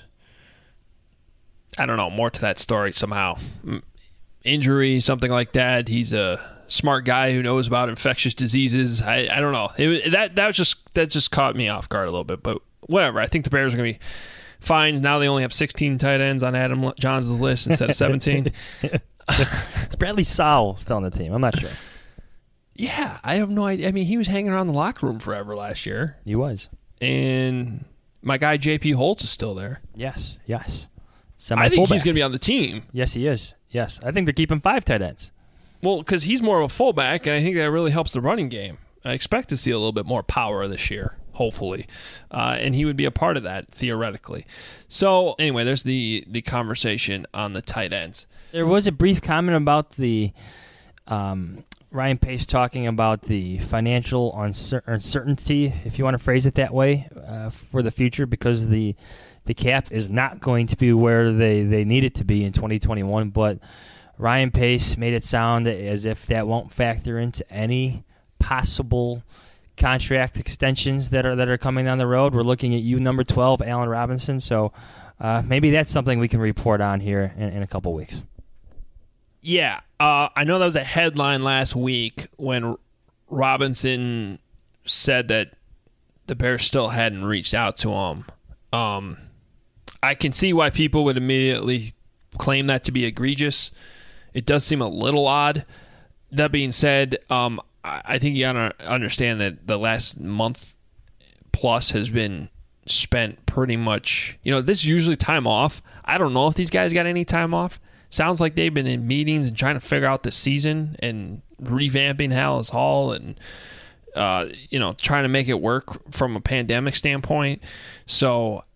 I don't know, more to that story somehow. Injury, something like that. He's a smart guy who knows about infectious diseases. I, I don't know. It, that that was just that just caught me off guard a little bit. But whatever. I think the Bears are going to be fine. Now they only have sixteen tight ends on Adam Johns' list instead of seventeen. Is Bradley Sowell still on the team? I'm not sure. Yeah, I have no idea. I mean, he was hanging around the locker room forever last year. He was. And my guy J P Holtz is still there. Yes, yes. I think he's going to be on the team. Yes, he is. Yes, I think they're keeping five tight ends. Well, because he's more of a fullback, and I think that really helps the running game. I expect to see a little bit more power this year, hopefully. Uh, and he would be a part of that, theoretically. So, anyway, there's the, the conversation on the tight ends. There was a brief comment about the um, Ryan Pace talking about the financial uncer- uncertainty, if you want to phrase it that way, uh, for the future because the the cap is not going to be where they, they need it to be in twenty twenty-one. But Ryan Pace made it sound as if that won't factor into any possible contract extensions that are that are coming down the road. We're looking at you, number twelve, Allen Robinson. So uh, maybe that's something we can report on here in, in a couple weeks. Yeah, uh, I know that was a headline last week when Robinson said that the Bears still hadn't reached out to him. Um, I can see why people would immediately claim that to be egregious. It does seem a little odd. That being said, um, I think you gotta understand that the last month plus has been spent pretty much, you know, this is usually time off. I don't know if these guys got any time off. Sounds like they've been in meetings and trying to figure out the season and revamping Hallis Hall and, uh, you know, trying to make it work from a pandemic standpoint. So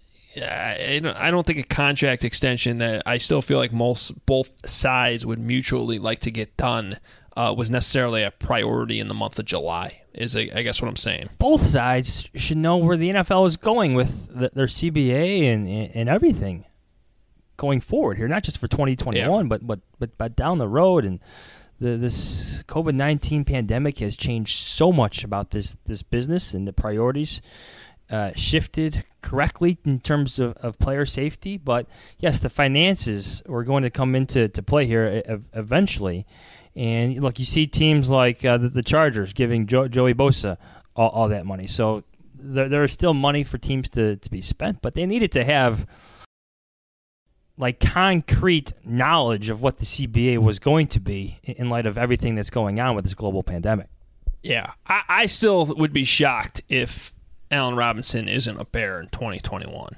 I don't think a contract extension that I still feel like most both sides would mutually like to get done uh, was necessarily a priority in the month of July, is I guess what I'm saying. Both sides should know where the N F L is going with the, their C B A and, and everything going forward here, not just for twenty twenty-one, yeah. but, but but but down the road. And the, this COVID nineteen pandemic has changed so much about this, this business, and the priorities Uh, shifted correctly in terms of, of player safety. But yes, the finances were going to come into to play here eventually. And look, you see teams like uh, the, the Chargers giving jo- Joey Bosa all, all that money. So there, there is still money for teams to, to be spent, but they needed to have like concrete knowledge of what the C B A was going to be in light of everything that's going on with this global pandemic. Yeah, I, I still would be shocked if Allen Robinson isn't a Bear in twenty twenty-one.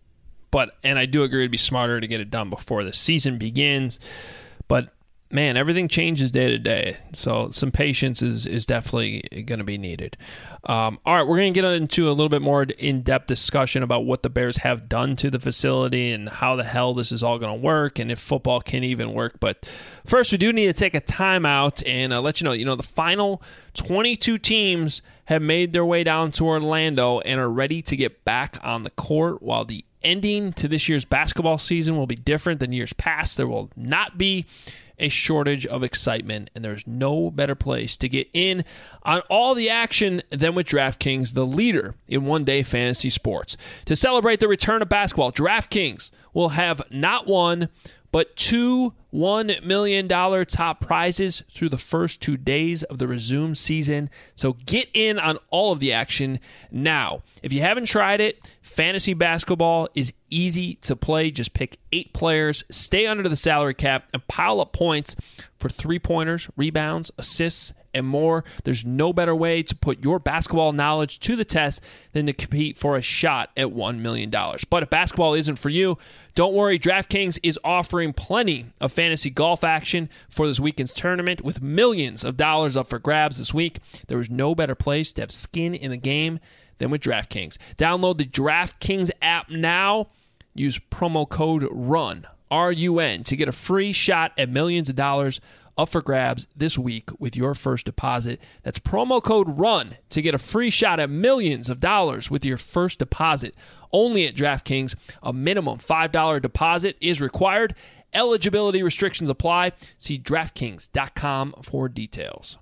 But, and I do agree it'd be smarter to get it done before the season begins. But, man, everything changes day to day. So some patience is, is definitely going to be needed. Um, all right, we're going to get into a little bit more in-depth discussion about what the Bears have done to the facility and how the hell this is all going to work and if football can even work. But first, we do need to take a timeout and uh, let you know, you know, the final twenty-two teams have made their way down to Orlando and are ready to get back on the court. While the ending to this year's basketball season will be different than years past, there will not be a shortage of excitement, and there's no better place to get in on all the action than with DraftKings, the leader in one-day fantasy sports. To celebrate the return of basketball, DraftKings will have not one, but two one million dollars top prizes through the first two days of the resumed season. So get in on all of the action now. If you haven't tried it, fantasy basketball is easy to play. Just pick eight players, stay under the salary cap, and pile up points for three-pointers, rebounds, assists, and more. There's no better way to put your basketball knowledge to the test than to compete for a shot at one million dollars. But if basketball isn't for you, don't worry. DraftKings is offering plenty of fantasy golf action for this weekend's tournament with millions of dollars up for grabs this week. There is no better place to have skin in the game than with DraftKings. Download the DraftKings app now. Use promo code RUN, R U N, to get a free shot at millions of dollars up for grabs this week with your first deposit. That's promo code RUN to get a free shot at millions of dollars with your first deposit. Only at DraftKings. A minimum five dollars deposit is required. Eligibility restrictions apply. See DraftKings dot com for details.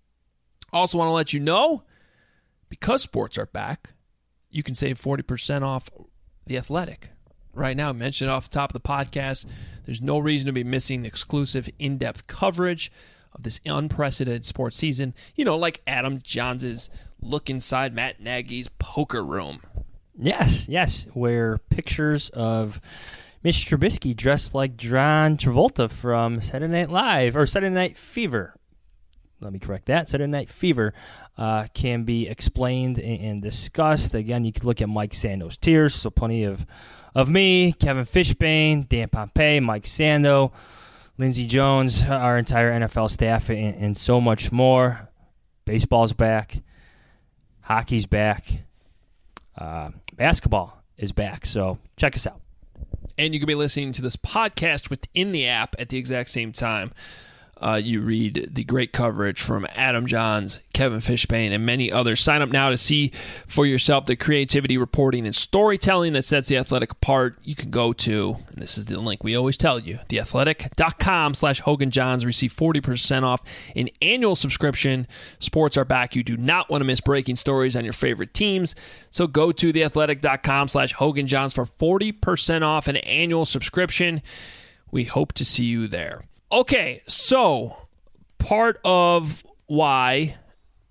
Also want to let you know, because sports are back, you can save forty percent off The Athletic. Right now, I mentioned it off the top of the podcast, there's no reason to be missing exclusive in-depth coverage of this unprecedented sports season. You know, like Adam Johns' look inside Matt Nagy's poker room. Yes, yes, where pictures of Mitch Trubisky dressed like John Travolta from Saturday Night Live, or Saturday Night Fever. Let me correct that. Saturday Night Fever uh, can be explained and, and discussed. Again, you can look at Mike Sando's tears, so plenty of of me, Kevin Fishbane, Dan Pompei, Mike Sando, Lindsey Jones, our entire N F L staff, and, and so much more. Baseball's back. Hockey's back. Uh, basketball is back. So check us out. And you can be listening to this podcast within the app at the exact same time. Uh, you read the great coverage from Adam Johns, Kevin Fishbane, and many others. Sign up now to see for yourself the creativity, reporting, and storytelling that sets The Athletic apart. You can go to, and this is the link we always tell you, theathletic.com slash Hogan Johns. Receive forty percent off an annual subscription. Sports are back. You do not want to miss breaking stories on your favorite teams. So go to theathletic.com slash Hogan Johns for forty percent off an annual subscription. We hope to see you there. Okay, so part of why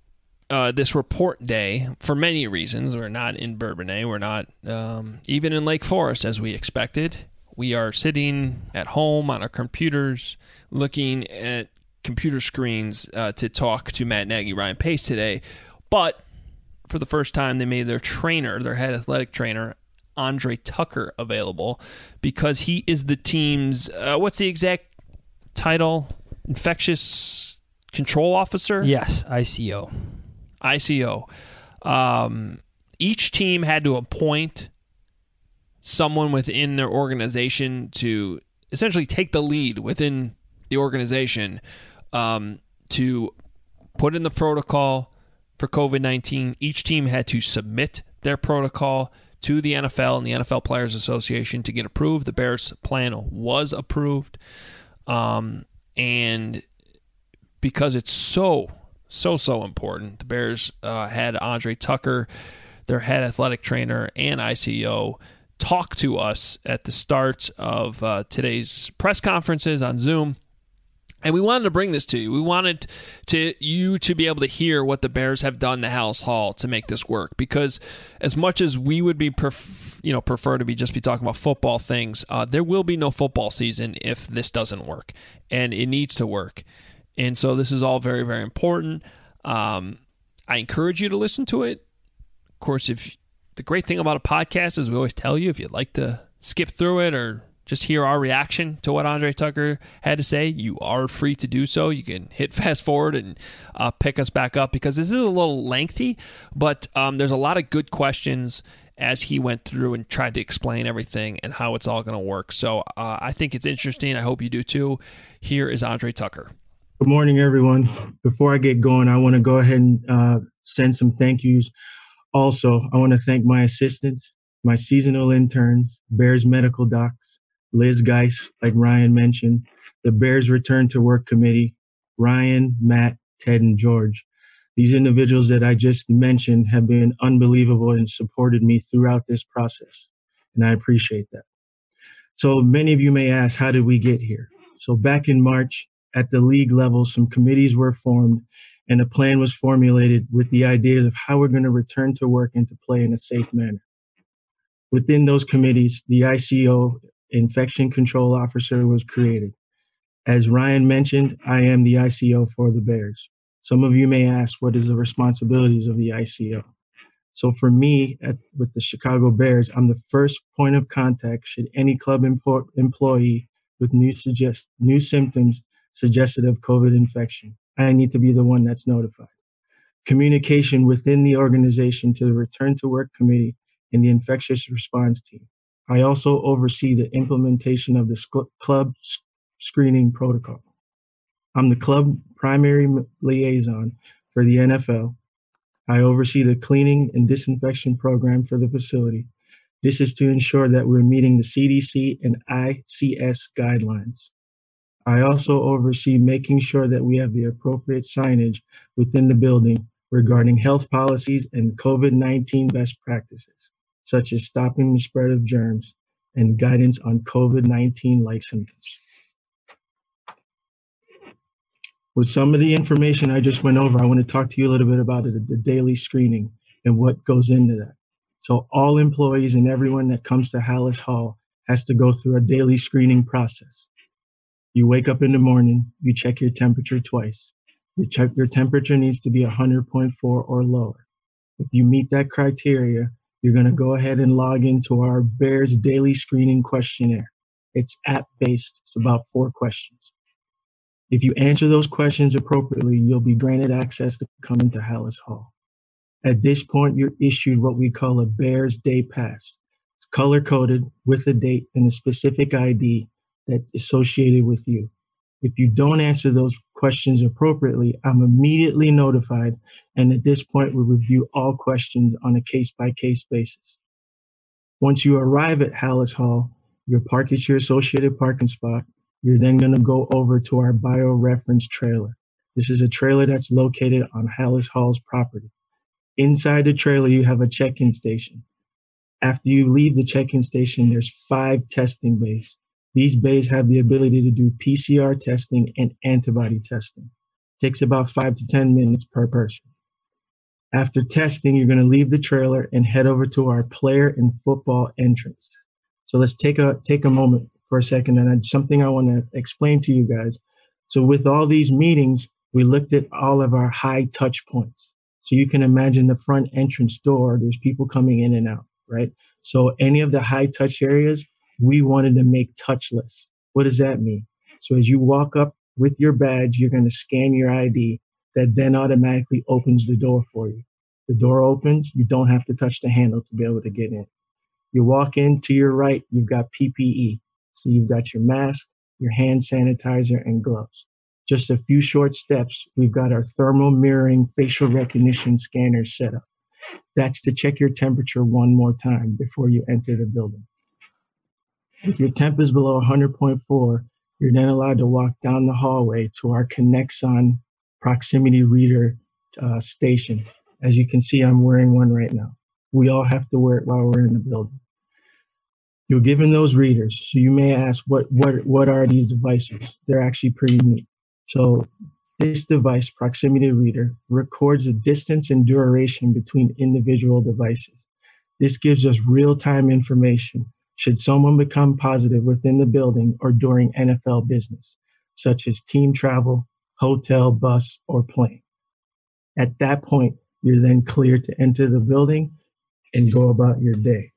uh, this report day for many reasons. We're not in Bourbonnais. We're not um, even in Lake Forest as we expected. We are sitting at home on our computers looking at computer screens uh, to talk to Matt Nagy, Ryan Pace today. But for the first time, they made their trainer, their head athletic trainer, Andre Tucker, available because he is the team's, uh, what's the exact title? Infectious Control Officer? Yes, I C O. I C O. Um, each team had to appoint someone within their organization to essentially take the lead within the organization um, to put in the protocol for COVID nineteen. Each team had to submit their protocol to the N F L and the N F L Players Association to get approved. The Bears' plan was approved. Um, and because it's so, so, so important, the Bears uh, had Andre Tucker, their head athletic trainer and I C O, talk to us at the start of uh, today's press conferences on Zoom. And we wanted to bring this to you. We wanted to you to be able to hear what the Bears have done to Halas Hall to make this work. Because as much as we would be, pref- you know, prefer to be just be talking about football things, uh, there will be no football season if this doesn't work, and it needs to work. And so this is all very, very important. Um, I encourage you to listen to it. Of course, if the great thing about a podcast is we always tell you if you'd like to skip through it or just hear our reaction to what Andre Tucker had to say, you are free to do so. You can hit fast forward and uh, pick us back up because this is a little lengthy, but um, there's a lot of good questions as he went through and tried to explain everything and how it's all going to work. So uh, I think it's interesting. I hope you do too. Here is Andre Tucker. Good morning, everyone. Before I get going, I want to go ahead and uh, send some thank yous. Also, I want to thank my assistants, my seasonal interns, Bears medical docs, Liz Geis, like Ryan mentioned, the Bears Return to Work Committee, Ryan, Matt, Ted, and George. These individuals that I just mentioned have been unbelievable and supported me throughout this process, and I appreciate that. So many of you may ask, how did we get here? So back in March, at the league level, some committees were formed, and a plan was formulated with the idea of how we're going to return to work and to play in a safe manner. Within those committees, the I C O, Infection Control Officer, was created. As Ryan mentioned, I am the I C O for the Bears. Some of you may ask, what is the responsibilities of the I C O? So for me, at, with the Chicago Bears, I'm the first point of contact should any club empo- employee with new, suggest, new symptoms suggested of COVID infection. I need to be the one that's notified. Communication within the organization to the Return to Work Committee and the Infectious Response Team. I also oversee the implementation of the sc- club sc- screening protocol. I'm the club primary liaison for the N F L. I oversee the cleaning and disinfection program for the facility. This is to ensure that we're meeting the C D C and I C S guidelines. I also oversee making sure that we have the appropriate signage within the building regarding health policies and COVID nineteen best practices, such as stopping the spread of germs and guidance on COVID nineteen-like symptoms. With some of the information I just went over, I want to talk to you a little bit about it, the daily screening and what goes into that. So all employees and everyone that comes to Halas Hall has to go through a daily screening process. You wake up in the morning, you check your temperature twice. You check your temperature needs to be one hundred point four or lower. If you meet that criteria, you're going to go ahead and log into our Bears daily screening questionnaire. It's app-based. It's about four questions. If you answer those questions appropriately, you'll be granted access to come into Halas Hall. At this point, you're issued what we call a Bears Day Pass. It's color-coded with a date and a specific I D that's associated with you. If you don't answer those questions appropriately, I'm immediately notified, and at this point, we review all questions on a case-by-case basis. Once you arrive at Halas Hall, you park at your associated parking spot. You're then going to go over to our bioreference trailer. This is a trailer that's located on Halas Hall's property. Inside the trailer, you have a check-in station. After you leave the check-in station, there's five testing bays. These bays have the ability to do P C R testing and antibody testing. It takes about five to ten minutes per person. After testing, you're going to leave the trailer and head over to our player and football entrance. So let's take a take a moment for a second, and I, something I want to explain to you guys. So with all these meetings, we looked at all of our high touch points. So you can imagine the front entrance door, there's people coming in and out, right? So any of the high touch areas, we wanted to make touchless. What does that mean? So as you walk up with your badge, you're going to scan your I D. That then automatically opens the door for you. The door opens, you don't have to touch the handle to be able to get in. You walk in, to your right, you've got P P E. So you've got your mask, your hand sanitizer, and gloves. Just a few short steps, we've got our thermal mirroring facial recognition scanner set up. That's to check your temperature one more time before you enter the building. If your temp is below one hundred point four, you're then allowed to walk down the hallway to our Connexon proximity reader uh, station. As you can see, I'm wearing one right now. We all have to wear it while we're in the building. You're given those readers. So you may ask, what, what, what are these devices? They're actually pretty neat. So this device, proximity reader, records the distance and duration between individual devices. This gives us real-time information should someone become positive within the building or during N F L business, such as team travel, hotel, bus, or plane. At that point, you're then cleared to enter the building and go about your day.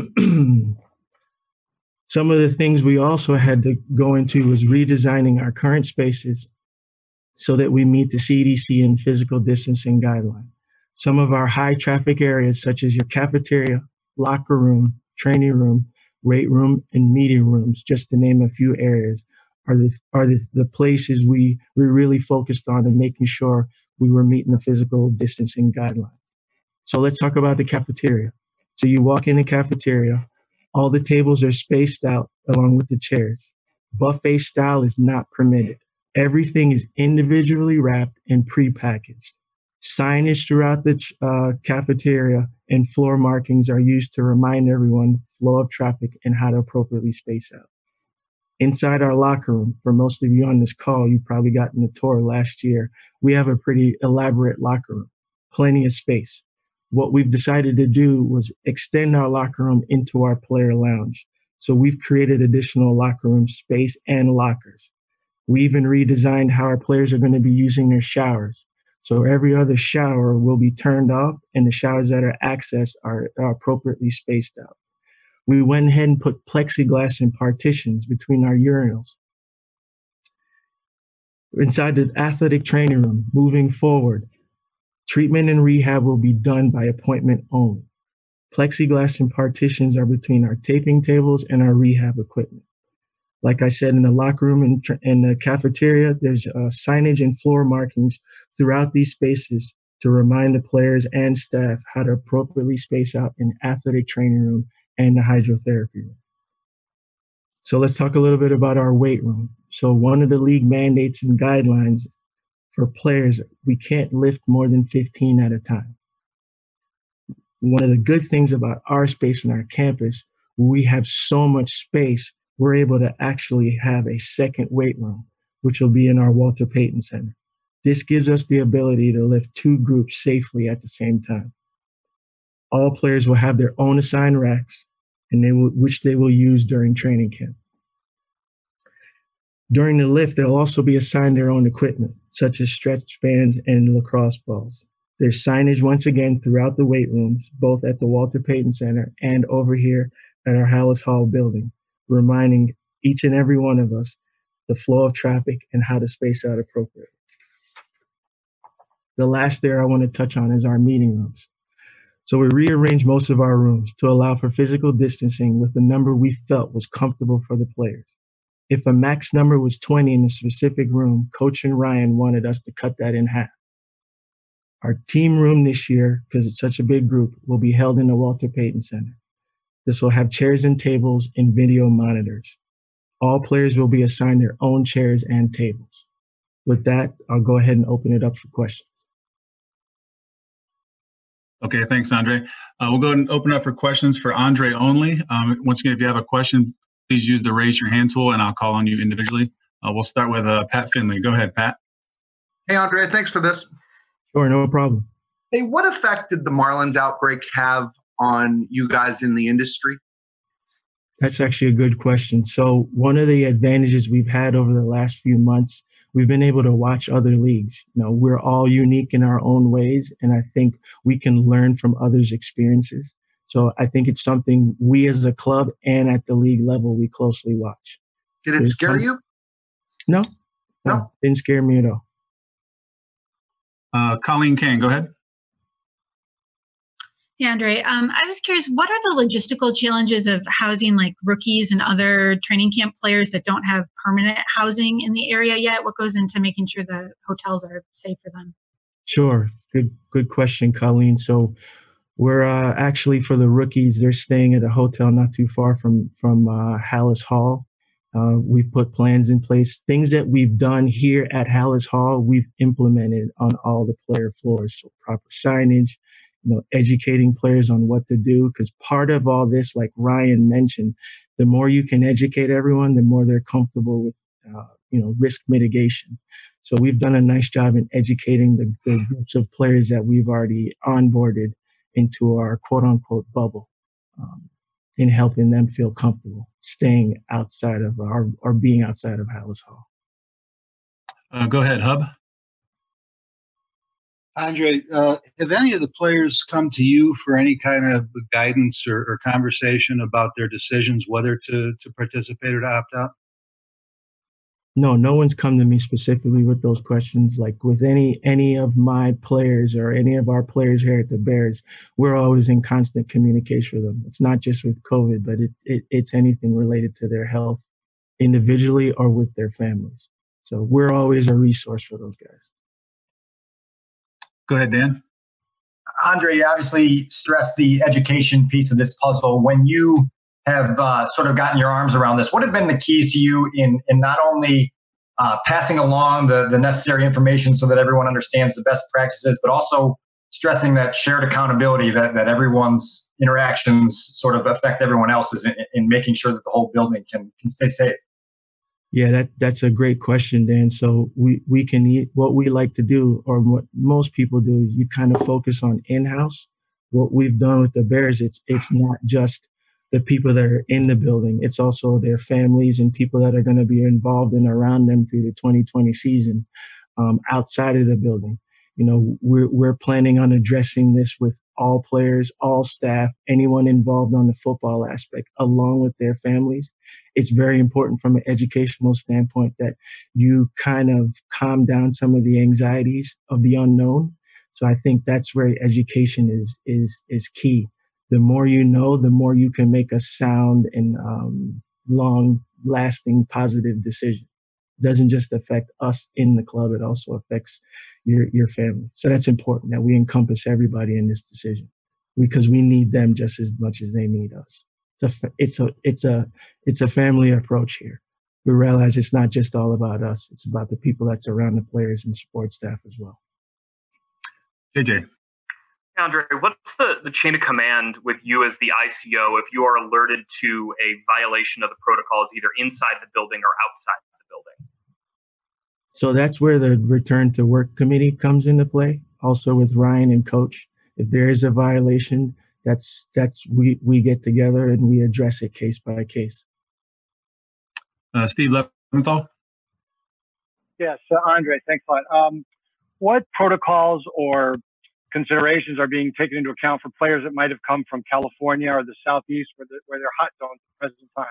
Some of the things we also had to go into was redesigning our current spaces so that we meet the C D C and physical distancing guideline. Some of our high traffic areas, such as your cafeteria, locker room, training room, weight room, and meeting rooms, just to name a few areas, are the are the, the places we, we really focused on and making sure we were meeting the physical distancing guidelines. So let's talk about the cafeteria. So you walk in the cafeteria, all the tables are spaced out along with the chairs. Buffet style is not permitted. Everything is individually wrapped and prepackaged. Signage throughout the uh, cafeteria and floor markings are used to remind everyone flow of traffic and how to appropriately space out. Inside our locker room, for most of you on this call, you probably gotten the tour last year, we have a pretty elaborate locker room, plenty of space. What we've decided to do was extend our locker room into our player lounge. So we've created additional locker room space and lockers. We even redesigned how our players are going to be using their showers. So every other shower will be turned off and the showers that are accessed are, are appropriately spaced out. We went ahead and put plexiglass and partitions between our urinals. Inside the athletic training room, moving forward, treatment and rehab will be done by appointment only. Plexiglass and partitions are between our taping tables and our rehab equipment. Like I said, in the locker room and in the cafeteria, there's uh, signage and floor markings throughout these spaces to remind the players and staff how to appropriately space out in the athletic training room and the hydrotherapy room. So let's talk a little bit about our weight room. So one of the league mandates and guidelines for players, we can't lift more than fifteen at a time. One of the good things about our space and our campus, we have so much space, we're able to actually have a second weight room, which will be in our Walter Payton Center. This gives us the ability to lift two groups safely at the same time. All players will have their own assigned racks, and they will, which they will use during training camp. During the lift, they'll also be assigned their own equipment, such as stretch bands and lacrosse balls. There's signage once again throughout the weight rooms, both at the Walter Payton Center and over here at our Hallis Hall building, reminding each and every one of us the flow of traffic and how to space out appropriately. The last area I want to touch on is our meeting rooms. So we rearranged most of our rooms to allow for physical distancing with the number we felt was comfortable for the players. If a max number was twenty in a specific room, Coach and Ryan wanted us to cut that in half. Our team room this year, because it's such a big group, will be held in the Walter Payton Center. This will have chairs and tables and video monitors. All players will be assigned their own chairs and tables. With that, I'll go ahead and open it up for questions. Okay, thanks, Andre. Uh, we'll go ahead and open up for questions for Andre only. Um, once again, if you have a question, please use the raise your hand tool and I'll call on you individually. Uh, we'll start with uh, Pat Finley. Go ahead, Pat. Hey, Andre, thanks for this. Sure, no problem. Hey, what effect did the Marlins outbreak have on you guys in the industry? That's actually a good question. So one of the advantages we've had over the last few months, we've been able to watch other leagues. You know, we're all unique in our own ways, and I think we can learn from others' experiences. So I think it's something we as a club and at the league level, we closely watch. Did it There's scare some- you? No, no, No? didn't scare me at all. Uh, Colleen Kane, go ahead. Yeah, Andre, um, I was curious, what are the logistical challenges of housing like rookies and other training camp players that don't have permanent housing in the area yet? What goes into making sure the hotels are safe for them? Sure. Good, good question, Colleen. So we're uh, actually, for the rookies, they're staying at a hotel not too far from, from uh, Hallis Hall. Uh, we've put plans in place. Things that we've done here at Hallis Hall, we've implemented on all the player floors. So proper signage, you know, educating players on what to do. Because part of all this, like Ryan mentioned, the more you can educate everyone, the more they're comfortable with, uh, you know, risk mitigation. So we've done a nice job in educating the, the groups of players that we've already onboarded into our quote unquote bubble, um, in helping them feel comfortable staying outside of our, or being outside of Hallis Hall. Uh, go ahead, Hub. Andre, uh, have any of the players come to you for any kind of guidance or, or conversation about their decisions, whether to, to participate or to opt out? No, no one's come to me specifically with those questions. Like with any any of my players or any of our players here at the Bears, we're always in constant communication with them. It's not just with COVID, but it, it it's anything related to their health individually or with their families. So we're always a resource for those guys. Go ahead, Dan. Andre, you obviously stressed the education piece of this puzzle. When you have uh, sort of gotten your arms around this, what have been the keys to you in, in not only uh, passing along the, the necessary information so that everyone understands the best practices, but also stressing that shared accountability, that, that everyone's interactions sort of affect everyone else's in, in making sure that the whole building can, can stay safe? Yeah, that that's a great question, Dan. So we, we can eat what we like to do, or what most people do, is you kind of focus on in-house. What we've done with the Bears, it's it's not just the people that are in the building. It's also their families and people that are going to be involved and around them through the twenty twenty season, um, outside of the building. You know, we're we're planning on addressing this with all players, all staff, anyone involved on the football aspect, along with their families. It's very important from an educational standpoint that you kind of calm down some of the anxieties of the unknown. So I think that's where education is is is key. The more you know, the more you can make a sound and um, long-lasting positive decision. It doesn't just affect us in the club; it also affects your your family. So that's important that we encompass everybody in this decision, because we need them just as much as they need us. It's a it's a it's a it's a family approach here. We realize it's not just all about us; it's about the people that's around the players and support staff as well. J J. Andre, what's the, the chain of command with you as the I C O if you are alerted to a violation of the protocols either inside the building or outside the building? So that's where the return to work committee comes into play, also with Ryan and Coach. If there is a violation, that's that's we, we get together and we address it case by case. Uh, Steve Leventhal. Yes, uh, Andre, thanks a lot. Um, what protocols or considerations are being taken into account for players that might have come from California or the Southeast, where, the, where they're hot zones at the present time?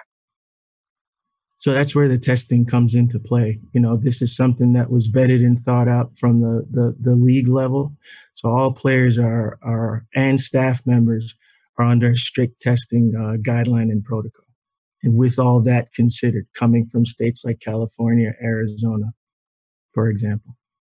So that's where the testing comes into play. You know, this is something that was vetted and thought out from the, the, the league level. So all players are, are and staff members are under strict testing uh, guideline and protocol. And with all that considered, coming from states like California, Arizona, for example.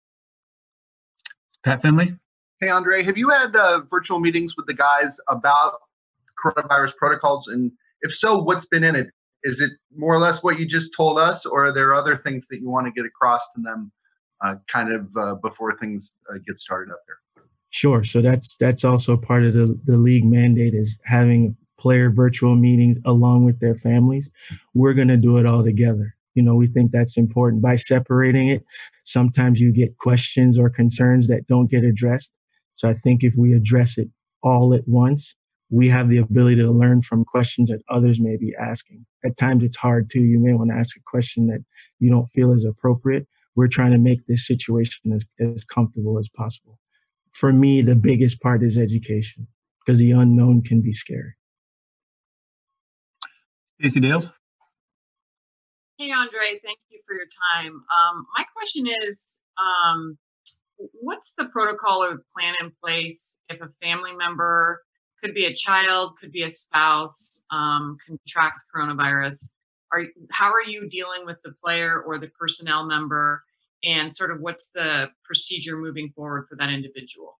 Pat Finley. Hey, Andre, have you had uh, virtual meetings with the guys about coronavirus protocols? And if so, what's been in it? Is it more or less what you just told us, or are there other things that you want to get across to them uh, kind of uh, before things uh, get started up there? Sure. So that's that's also part of the, the league mandate, is having player virtual meetings along with their families. We're going to do it all together. You know, we think that's important. By separating it, sometimes you get questions or concerns that don't get addressed. So I think if we address it all at once, we have the ability to learn from questions that others may be asking. At times it's hard too. You may want to ask a question that you don't feel is appropriate. We're trying to make this situation as, as comfortable as possible. For me, the biggest part is education, because the unknown can be scary. Stacey Dales. Hey, Andre, thank you for your time. Um, my question is, um, what's the protocol or plan in place if a family member, could be a child, could be a spouse, um, contracts coronavirus? Are, how are you dealing with the player or the personnel member, and sort of what's the procedure moving forward for that individual?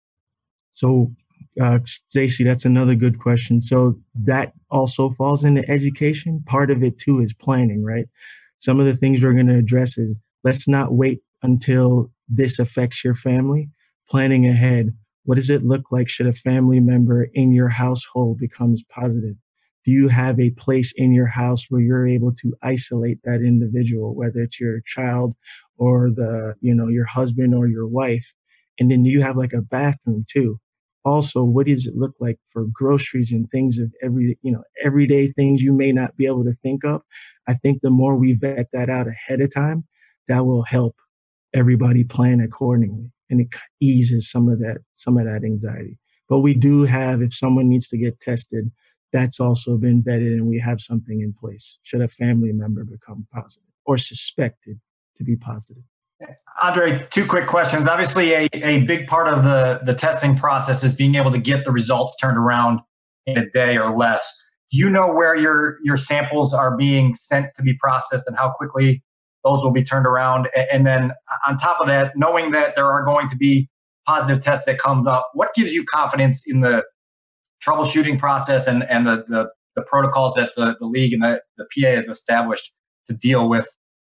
So, uh, Stacey, that's another good question. So that also falls into education. Part of it too is planning, right? Some of the things we're going to address is, let's not wait until this affects your family. Planning ahead. What does it look like should a family member in your household becomes positive? Do you have a place in your house where you're able to isolate that individual, whether it's your child or the, you know, your husband or your wife? And then do you have like a bathroom too? Also, what does it look like for groceries and things of every, you know, everyday things you may not be able to think of? I think the more we vet that out ahead of time, that will help everybody plan accordingly, and it eases some of that, some of that anxiety. But we do have, if someone needs to get tested, that's also been vetted, and we have something in place should a family member become positive or suspected to be positive. Andre, two quick questions. Obviously, a, a big part of the, the testing process is being able to get the results turned around in a day or less. Do you know where your, your samples are being sent to be processed and how quickly those will be turned around? And then on top of that, knowing that there are going to be positive tests that come up, what gives you confidence in the troubleshooting process and, and the, the, the protocols that the, the league and the, the P A have established to deal with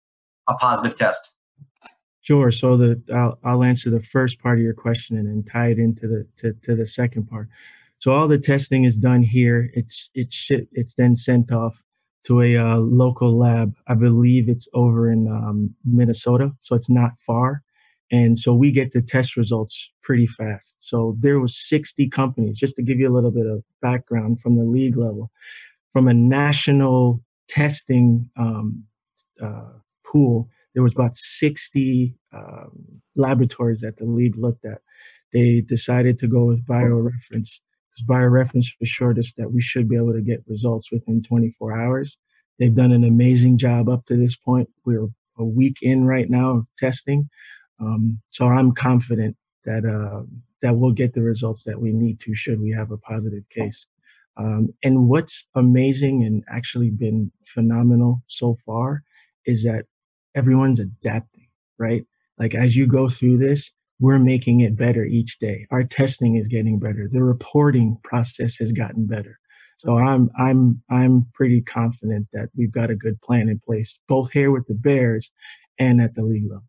a positive test? Sure. So the I'll, I'll answer the first part of your question and then tie it into the to, to the second part. So all the testing is done here. It's it's it's then sent off to a uh, local lab. I believe it's over in um, Minnesota, so it's not far. And so we get the test results pretty fast. So there was sixty companies, just to give you a little bit of background from the league level, from a national testing um, uh, pool. There was about sixty um, laboratories that the league looked at. They decided to go with BioReference, because BioReference assured us that we should be able to get results within twenty-four hours. They've done an amazing job up to this point. We're a week in right now of testing. Um, so I'm confident that uh, that we'll get the results that we need to should we have a positive case. Um, and what's amazing and actually been phenomenal so far is that everyone's adapting, right? Like as you go through this, we're making it better each day. Our testing is getting better. The reporting process has gotten better. So I'm I'm I'm pretty confident that we've got a good plan in place, both here with the Bears and at the league level.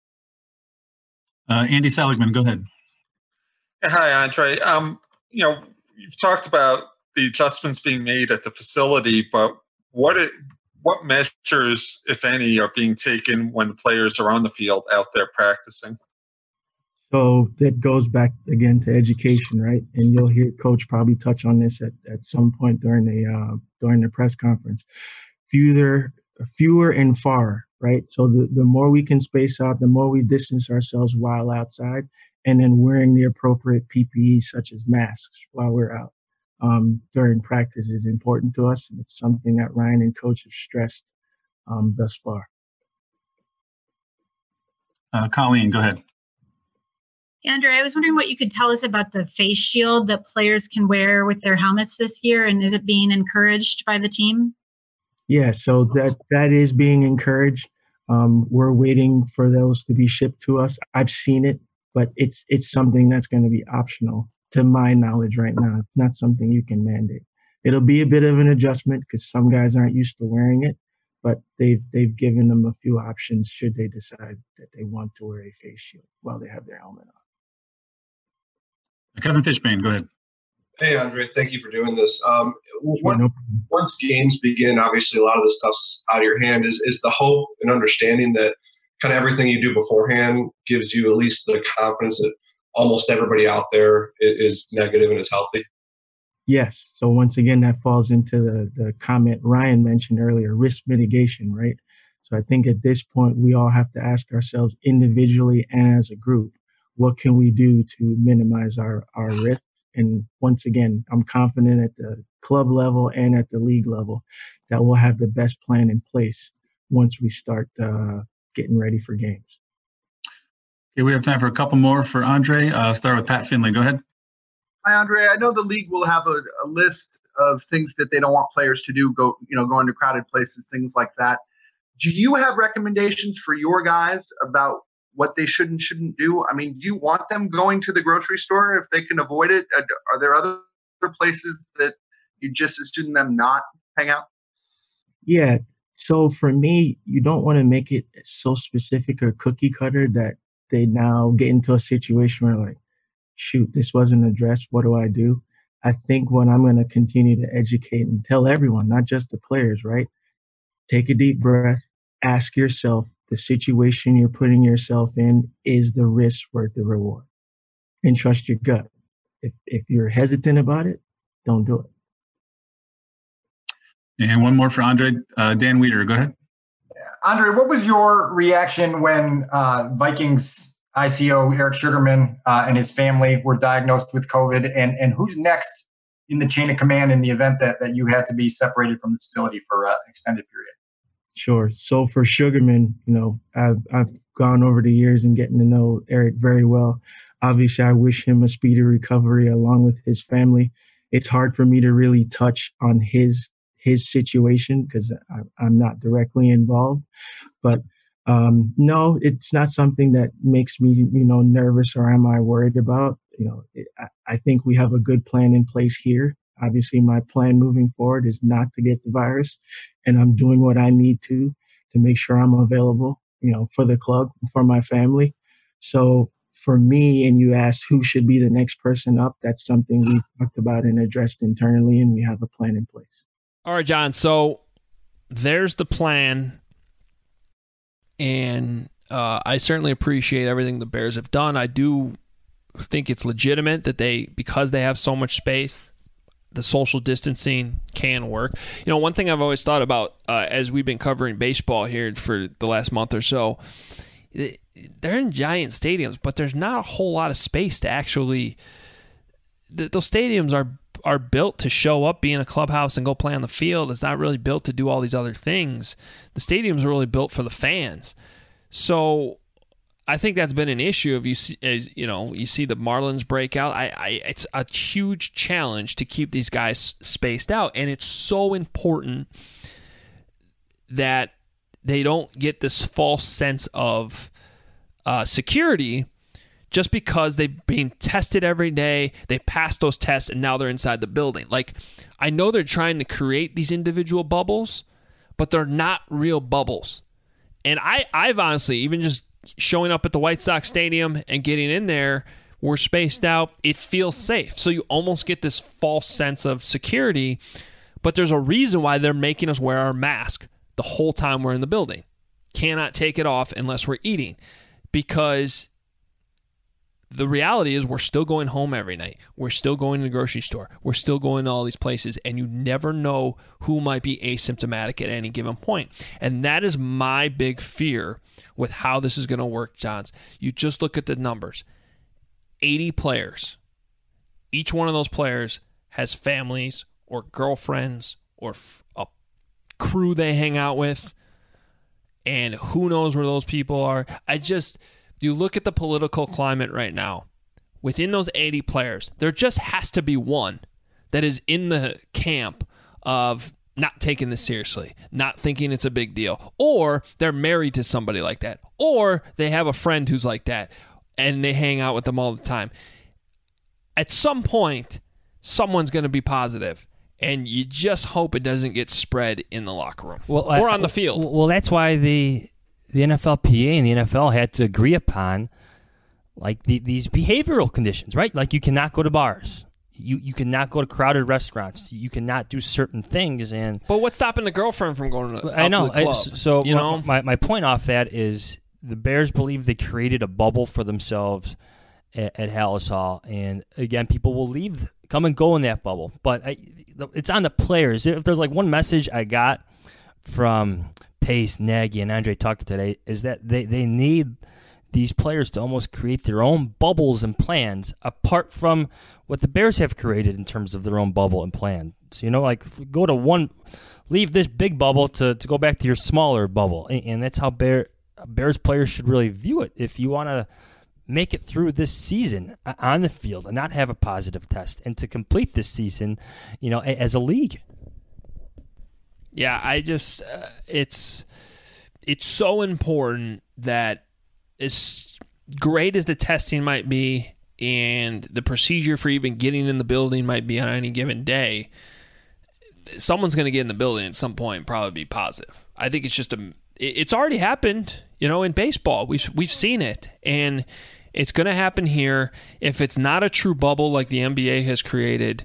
Uh, Andy Seligman, go ahead. Hi, Andre. Um, you know, you've talked about the adjustments being made at the facility, but what it, what measures, if any, are being taken when the players are on the field out there practicing? So that goes back again to education, right? And you'll hear Coach probably touch on this at, at some point during the uh, during the press conference. Fewer, fewer and far, right? So the, the more we can space out, the more we distance ourselves while outside, and then wearing the appropriate P P E such as masks while we're out um, during practice is important to us. And it's something that Ryan and Coach have stressed um, thus far. Uh, Colleen, go ahead. Andre, I was wondering what you could tell us about the face shield that players can wear with their helmets this year, and is it being encouraged by the team? Yeah, so that that is being encouraged. Um, we're waiting for those to be shipped to us. I've seen it, but it's it's something that's going to be optional to my knowledge right now. It's not something you can mandate. It'll be a bit of an adjustment because some guys aren't used to wearing it, but they've they've given them a few options should they decide that they want to wear a face shield while they have their helmet on. Kevin Fishbane, go ahead. Hey, Andre, thank you for doing this. Um, what, once games begin, obviously a lot of this stuff's out of your hand. Is is the hope and understanding that kind of everything you do beforehand gives you at least the confidence that almost everybody out there is, is negative and is healthy? Yes. So once again, that falls into the, the comment Ryan mentioned earlier, risk mitigation, right? So I think at this point, we all have to ask ourselves individually and as a group, what can we do to minimize our, our risk? And once again, I'm confident at the club level and at the league level that we'll have the best plan in place once we start uh, getting ready for games. Okay, we have time for a couple more for Andre. Uh, start with Pat Finley. Go ahead. Hi, Andre. I know the league will have a, a list of things that they don't want players to do, go, you know, go into crowded places, things like that. Do you have recommendations for your guys about what they should and shouldn't do? I mean, do you want them going to the grocery store if they can avoid it? Are there other places that you just assume them not hang out? Yeah. So for me, you don't want to make it so specific or cookie cutter that they now get into a situation where like, shoot, this wasn't addressed. What do I do? I think what I'm going to continue to educate and tell everyone, not just the players, right? Take a deep breath, ask yourself, the situation you're putting yourself in, is the risk worth the reward? And trust your gut. If if you're hesitant about it, don't do it. And one more for Andre. Uh, Dan Weeder, go ahead. Andre, what was your reaction when uh, Vikings I C O Eric Sugarman uh, and his family were diagnosed with COVID? And, and who's next in the chain of command in the event that, that you had to be separated from the facility for uh, an extended period? Sure. So for Sugarman, you know, I've I've gone over the years and getting to know Eric very well. Obviously, I wish him a speedy recovery along with his family. It's hard for me to really touch on his his situation because I'm not directly involved. But um, no, it's not something that makes me, you know, nervous or am I worried about. You know, it, I, I think we have a good plan in place here. Obviously, my plan moving forward is not to get the virus, and I'm doing what I need to to make sure I'm available, you know, for the club, for my family. So for me, and you asked who should be the next person up, that's something we've talked about and addressed internally, and we have a plan in place. All right, John. So there's the plan, and uh, I certainly appreciate everything the Bears have done. I do think it's legitimate that they, because they have so much space, the social distancing can work. You know, one thing I've always thought about uh, as we've been covering baseball here for the last month or so, they're in giant stadiums, but there's not a whole lot of space to actually. Th- those stadiums are are built to show up, be in a clubhouse, and go play on the field. It's not really built to do all these other things. The stadiums are really built for the fans. So I think that's been an issue. If you see, as, you know, you see the Marlins break out. I, I, it's a huge challenge to keep these guys spaced out, and it's so important that they don't get this false sense of uh, security just because they're being tested every day. They pass those tests, and now they're inside the building. Like, I know they're trying to create these individual bubbles, but they're not real bubbles. And I, I've honestly, even just showing up at the White Sox Stadium and getting in there, we're spaced out, it feels safe. So you almost get this false sense of security, but there's a reason why they're making us wear our mask the whole time we're in the building. Cannot take it off unless we're eating, because the reality is we're still going home every night. We're still going to the grocery store. We're still going to all these places, and you never know who might be asymptomatic at any given point. And that is my big fear with how this is going to work, Johns. You just look at the numbers. eighty players. Each one of those players has families or girlfriends or a crew they hang out with, and who knows where those people are. I just, you look at the political climate right now, within those eighty players, there just has to be one that is in the camp of not taking this seriously, not thinking it's a big deal, or they're married to somebody like that, or they have a friend who's like that, and they hang out with them all the time. At some point, someone's going to be positive, and you just hope it doesn't get spread in the locker room well, or I, on the field. Well, that's why the the N F L P A and the N F L had to agree upon like the, these behavioral conditions, right? Like you cannot go to bars. You you cannot go to crowded restaurants. You cannot do certain things. And But what's stopping the girlfriend from going to, out I know. to the club? I, so you my, know? my, my point off that is the Bears believe they created a bubble for themselves, at, at Hallis Hall. And again, people will leave, come and go in that bubble. But I, it's on the players. If there's like one message I got from Pace, Nagy, and Andre Tucker today, is that they, they need these players to almost create their own bubbles and plans apart from what the Bears have created in terms of their own bubble and plan. So, you know, like go to one, leave this big bubble to, to go back to your smaller bubble. And, and that's how Bear, Bears players should really view it. If you want to make it through this season on the field and not have a positive test and to complete this season, you know, as a league. Yeah, I just, uh, it's, it's so important that as great as the testing might be and the procedure for even getting in the building might be on any given day, someone's going to get in the building at some point and probably be positive. I think it's just a, it's already happened, you know, in baseball. We've, we've seen it, and it's going to happen here. If it's not a true bubble like the N B A has created,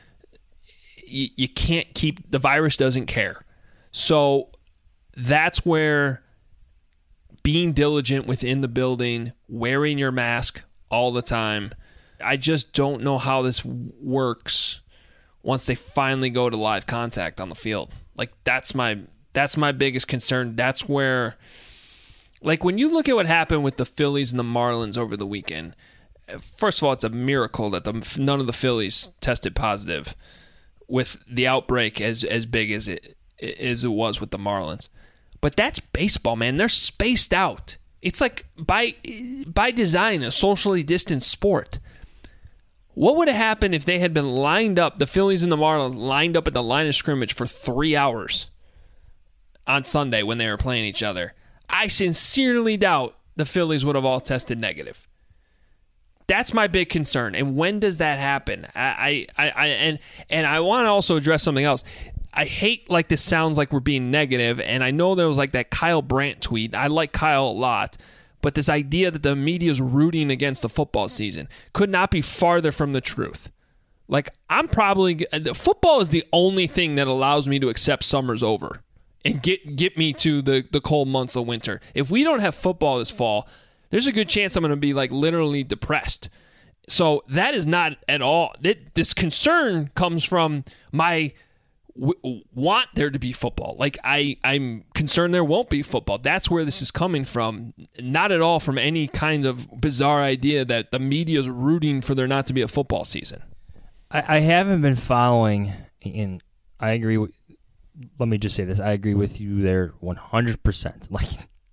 you, you can't keep, the virus doesn't care. So that's where being diligent within the building, wearing your mask all the time, I just don't know how this works once they finally go to live contact on the field. Like, that's my that's my biggest concern. That's where, like, when you look at what happened with the Phillies and the Marlins over the weekend, first of all, it's a miracle that the, none of the Phillies tested positive with the outbreak as as big as it as it was with the Marlins. But that's baseball, man. They're spaced out. It's like by by design a socially distanced sport. What would have happened if they had been lined up, the Phillies and the Marlins lined up at the line of scrimmage for three hours on Sunday when they were playing each other? I sincerely doubt the Phillies would have all tested negative. That's my big concern. And when does that happen? I, I, I and and I want to also address something else. I hate like this sounds like we're being negative, and I know there was like that Kyle Brandt tweet. I like Kyle a lot, but this idea that the media is rooting against the football season could not be farther from the truth. Like, I'm probably football is the only thing that allows me to accept summer's over and get get me to the the cold months of winter. If we don't have football this fall, there's a good chance I'm going to be like literally depressed. So that is not at all. This concern comes from my w- want there to be football. Like I, I'm concerned there won't be football. That's where this is coming from. Not at all from any kind of bizarre idea that the media is rooting for there not to be a football season. I, I haven't been following, and I agree with, let me just say this. I agree with you there one hundred percent. Like,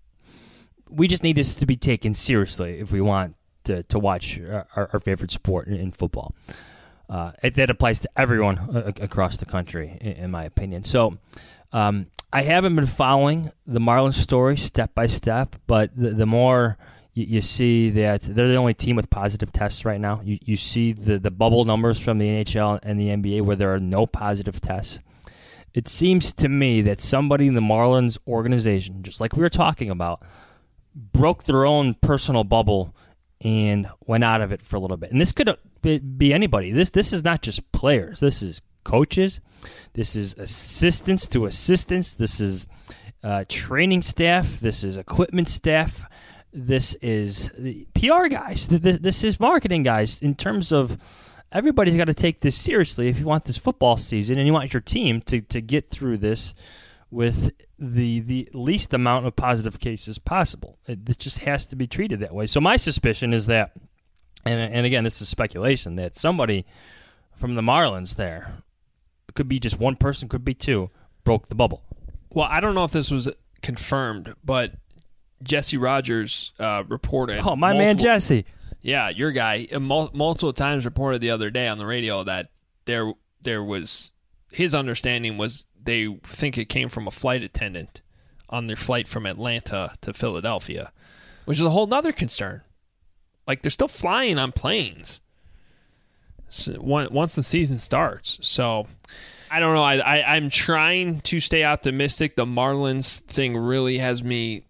we just need this to be taken seriously if we want to, to watch our, our favorite sport in, in football. Uh, it, that applies to everyone uh, across the country, in, in my opinion. So um, I haven't been following the Marlins story step by step, but the, the more you, you see that they're the only team with positive tests right now, you, you see the, the bubble numbers from the N H L and the N B A where there are no positive tests. It seems to me that somebody in the Marlins organization, just like we were talking about, broke their own personal bubble and went out of it for a little bit. And this could be anybody. This this is not just players. This is coaches. This is assistants to assistants. This is uh, training staff. This is equipment staff. This is P R guys. This, this is marketing guys. In terms of everybody's got to take this seriously if you want this football season and you want your team to, to get through this with the the least amount of positive cases possible. It, this just has to be treated that way. So my suspicion is that, and and again, this is speculation, that somebody from the Marlins there, it could be just one person, could be two, broke the bubble. Well, I don't know if this was confirmed, but Jesse Rogers uh, reported. Oh, my multiple, man Jesse. Yeah, your guy, mul- multiple times reported the other day on the radio that there there was, his understanding was they think it came from a flight attendant on their flight from Atlanta to Philadelphia, which is a whole nother concern. Like, they're still flying on planes so, once the season starts. So, I don't know. I, I, I'm trying to stay optimistic. The Marlins thing really has me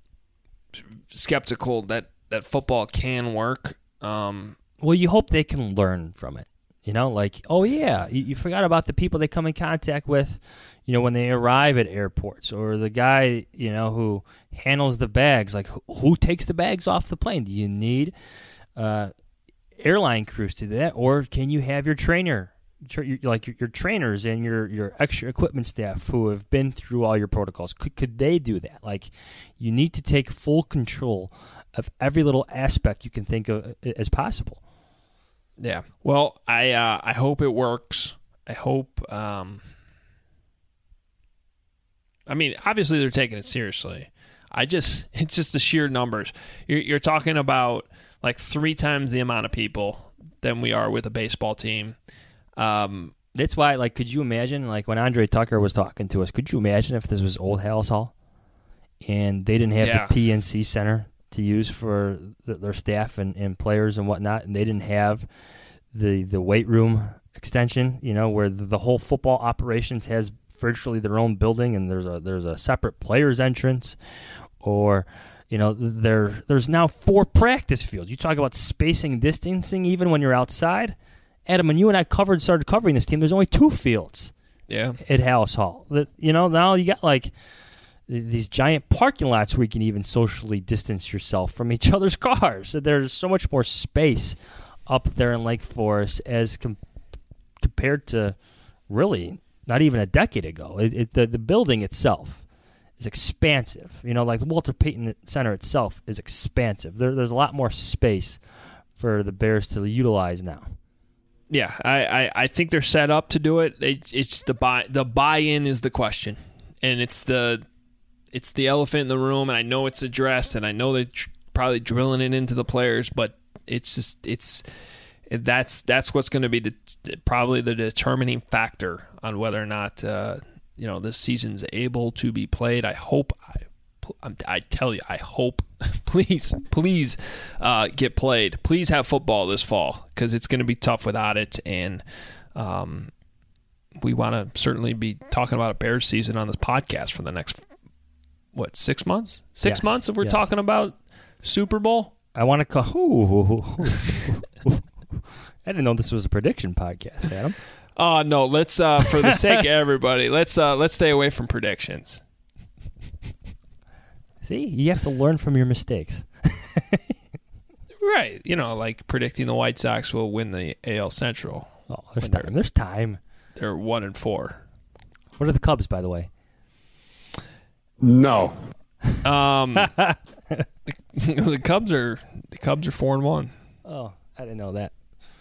skeptical that, that football can work. Um, well, you hope they can learn from it. You know, like, oh, yeah, you, you forgot about the people they come in contact with, you know, when they arrive at airports, or the guy, you know, who handles the bags. Like, who, who takes the bags off the plane? Do you need, uh, airline crews to do that, or can you have your trainer, your, like your, your trainers and your, your extra equipment staff who have been through all your protocols? Could, could they do that? Like, you need to take full control of every little aspect you can think of as possible. Yeah. Well, I uh, I hope it works. I hope. Um, I mean, obviously they're taking it seriously. I just, it's just the sheer numbers. You're, you're talking about like three times the amount of people than we are with a baseball team. Um, That's why, like, could you imagine, like, when Andre Tucker was talking to us, could you imagine if this was Old Halas Hall and they didn't have Yeah. the P N C Center to use for the, their staff and, and players and whatnot, and they didn't have the the weight room extension, you know, where the, the whole football operations has virtually their own building, and there's a there's a separate players entrance, or you know, there there's now four practice fields. You talk about spacing and distancing even when you're outside. Adam, when you and I covered started covering this team, there's only two fields. Yeah. At Halas Hall. That, you know, now you got like these giant parking lots where you can even socially distance yourself from each other's cars. So there's so much more space up there in Lake Forest as com- compared to really not even a decade ago. It, it, the, the building itself is expansive. You know, like the Walter Payton Center itself is expansive. There, there's a lot more space for the Bears to utilize now. Yeah, I, I, I think they're set up to do it. it. It's the buy the buy-in is the question, and it's the it's the elephant in the room. And I know it's addressed, and I know they're tr- probably drilling it into the players, but it's just it's that's that's what's going to be the, probably the determining factor on whether or not uh, you know this season's able to be played. I hope I. I tell you, I hope, please, please uh, get played. Please have football this fall because it's going to be tough without it. And um, we want to certainly be talking about a Bears season on this podcast for the next, what, six months? Six Yes, months if we're yes. talking about Super Bowl? I want to call. Ooh, I didn't know this was a prediction podcast, Adam. Oh, no, let's, uh, for the sake of everybody, let's uh, let's stay away from predictions. See, you have to learn from your mistakes. Right. You know, like predicting the White Sox will win the A L Central. Oh, there's time. There's time. They're one and four. What are the Cubs, by the way? No. Um, the, the Cubs are the Cubs are four and one. Oh, I didn't know that.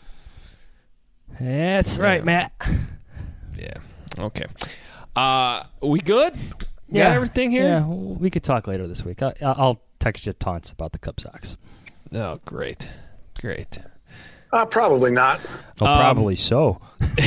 That's right, Yeah. Matt. Yeah. Okay. Uh, we good? You Yeah, got everything here? Yeah, we could talk later this week. I, I'll text you taunts about the Cub Sox. Oh, great, great. Uh, probably not. Oh, Um, probably so.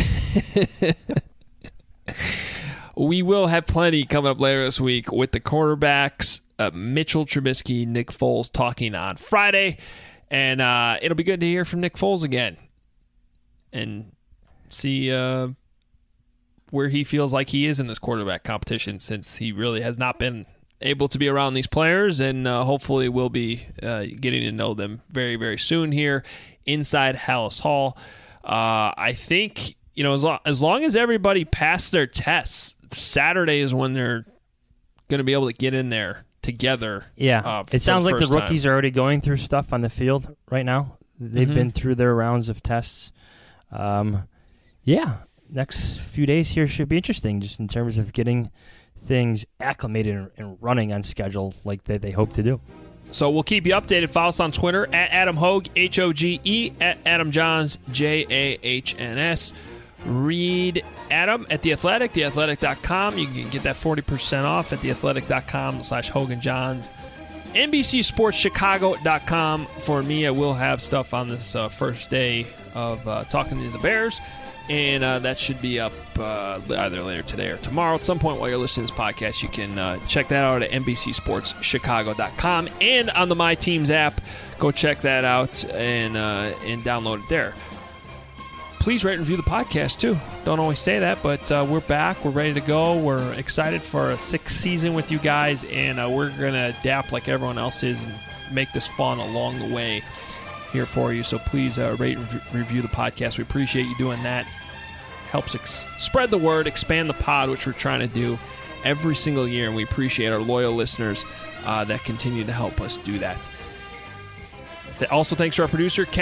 We will have plenty coming up later this week with the quarterbacks, uh, Mitchell Trubisky, Nick Foles talking on Friday, and uh, it'll be good to hear from Nick Foles again and see uh, where he feels like he is in this quarterback competition, since he really has not been able to be around these players, and uh, hopefully we'll be uh, getting to know them very, very soon here inside Halas Hall. Uh, I think, you know, as, lo- as long as everybody passed their tests, Saturday is when they're going to be able to get in there together. Yeah, uh, it sounds the like the first rookies time. are already going through stuff on the field right now. They've Mhm. been through their rounds of tests. Um, yeah, next few days here should be interesting, just in terms of getting things acclimated and, and running on schedule like they, they hope to do. So we'll keep you updated. Follow us on Twitter at Adam Hoge, H O G E, at Adam Johns, J A H N S. Read Adam at The Athletic, the athletic dot com. You can get that forty percent off at the athletic dot com slash Hogan Johns. N B C Sports Chicago dot com. For me, I will have stuff on this uh, first day of uh, talking to the Bears, and uh, that should be up uh, either later today or tomorrow. At some point while you're listening to this podcast, you can uh, check that out at N B C Sports Chicago dot com and on the My Teams app. Go check that out and uh, and download it there. Please rate and review the podcast, too. Don't always say that, but uh, we're back. We're ready to go. We're excited for a sixth season with you guys, and uh, we're going to adapt like everyone else is and make this fun along the way here for you. So please uh, rate and re- review the podcast. We appreciate you doing that. Helps ex- spread the word, expand the pod, which we're trying to do every single year, and we appreciate our loyal listeners uh, that continue to help us do that. Also, thanks to our producer, Kent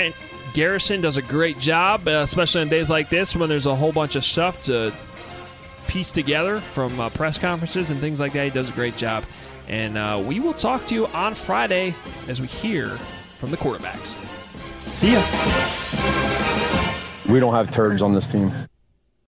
Garrison does a great job, uh, especially on days like this when there's a whole bunch of stuff to piece together from uh, press conferences and things like that. He does a great job. And uh, we will talk to you on Friday as we hear from the quarterbacks. See ya. We don't have turds on this team.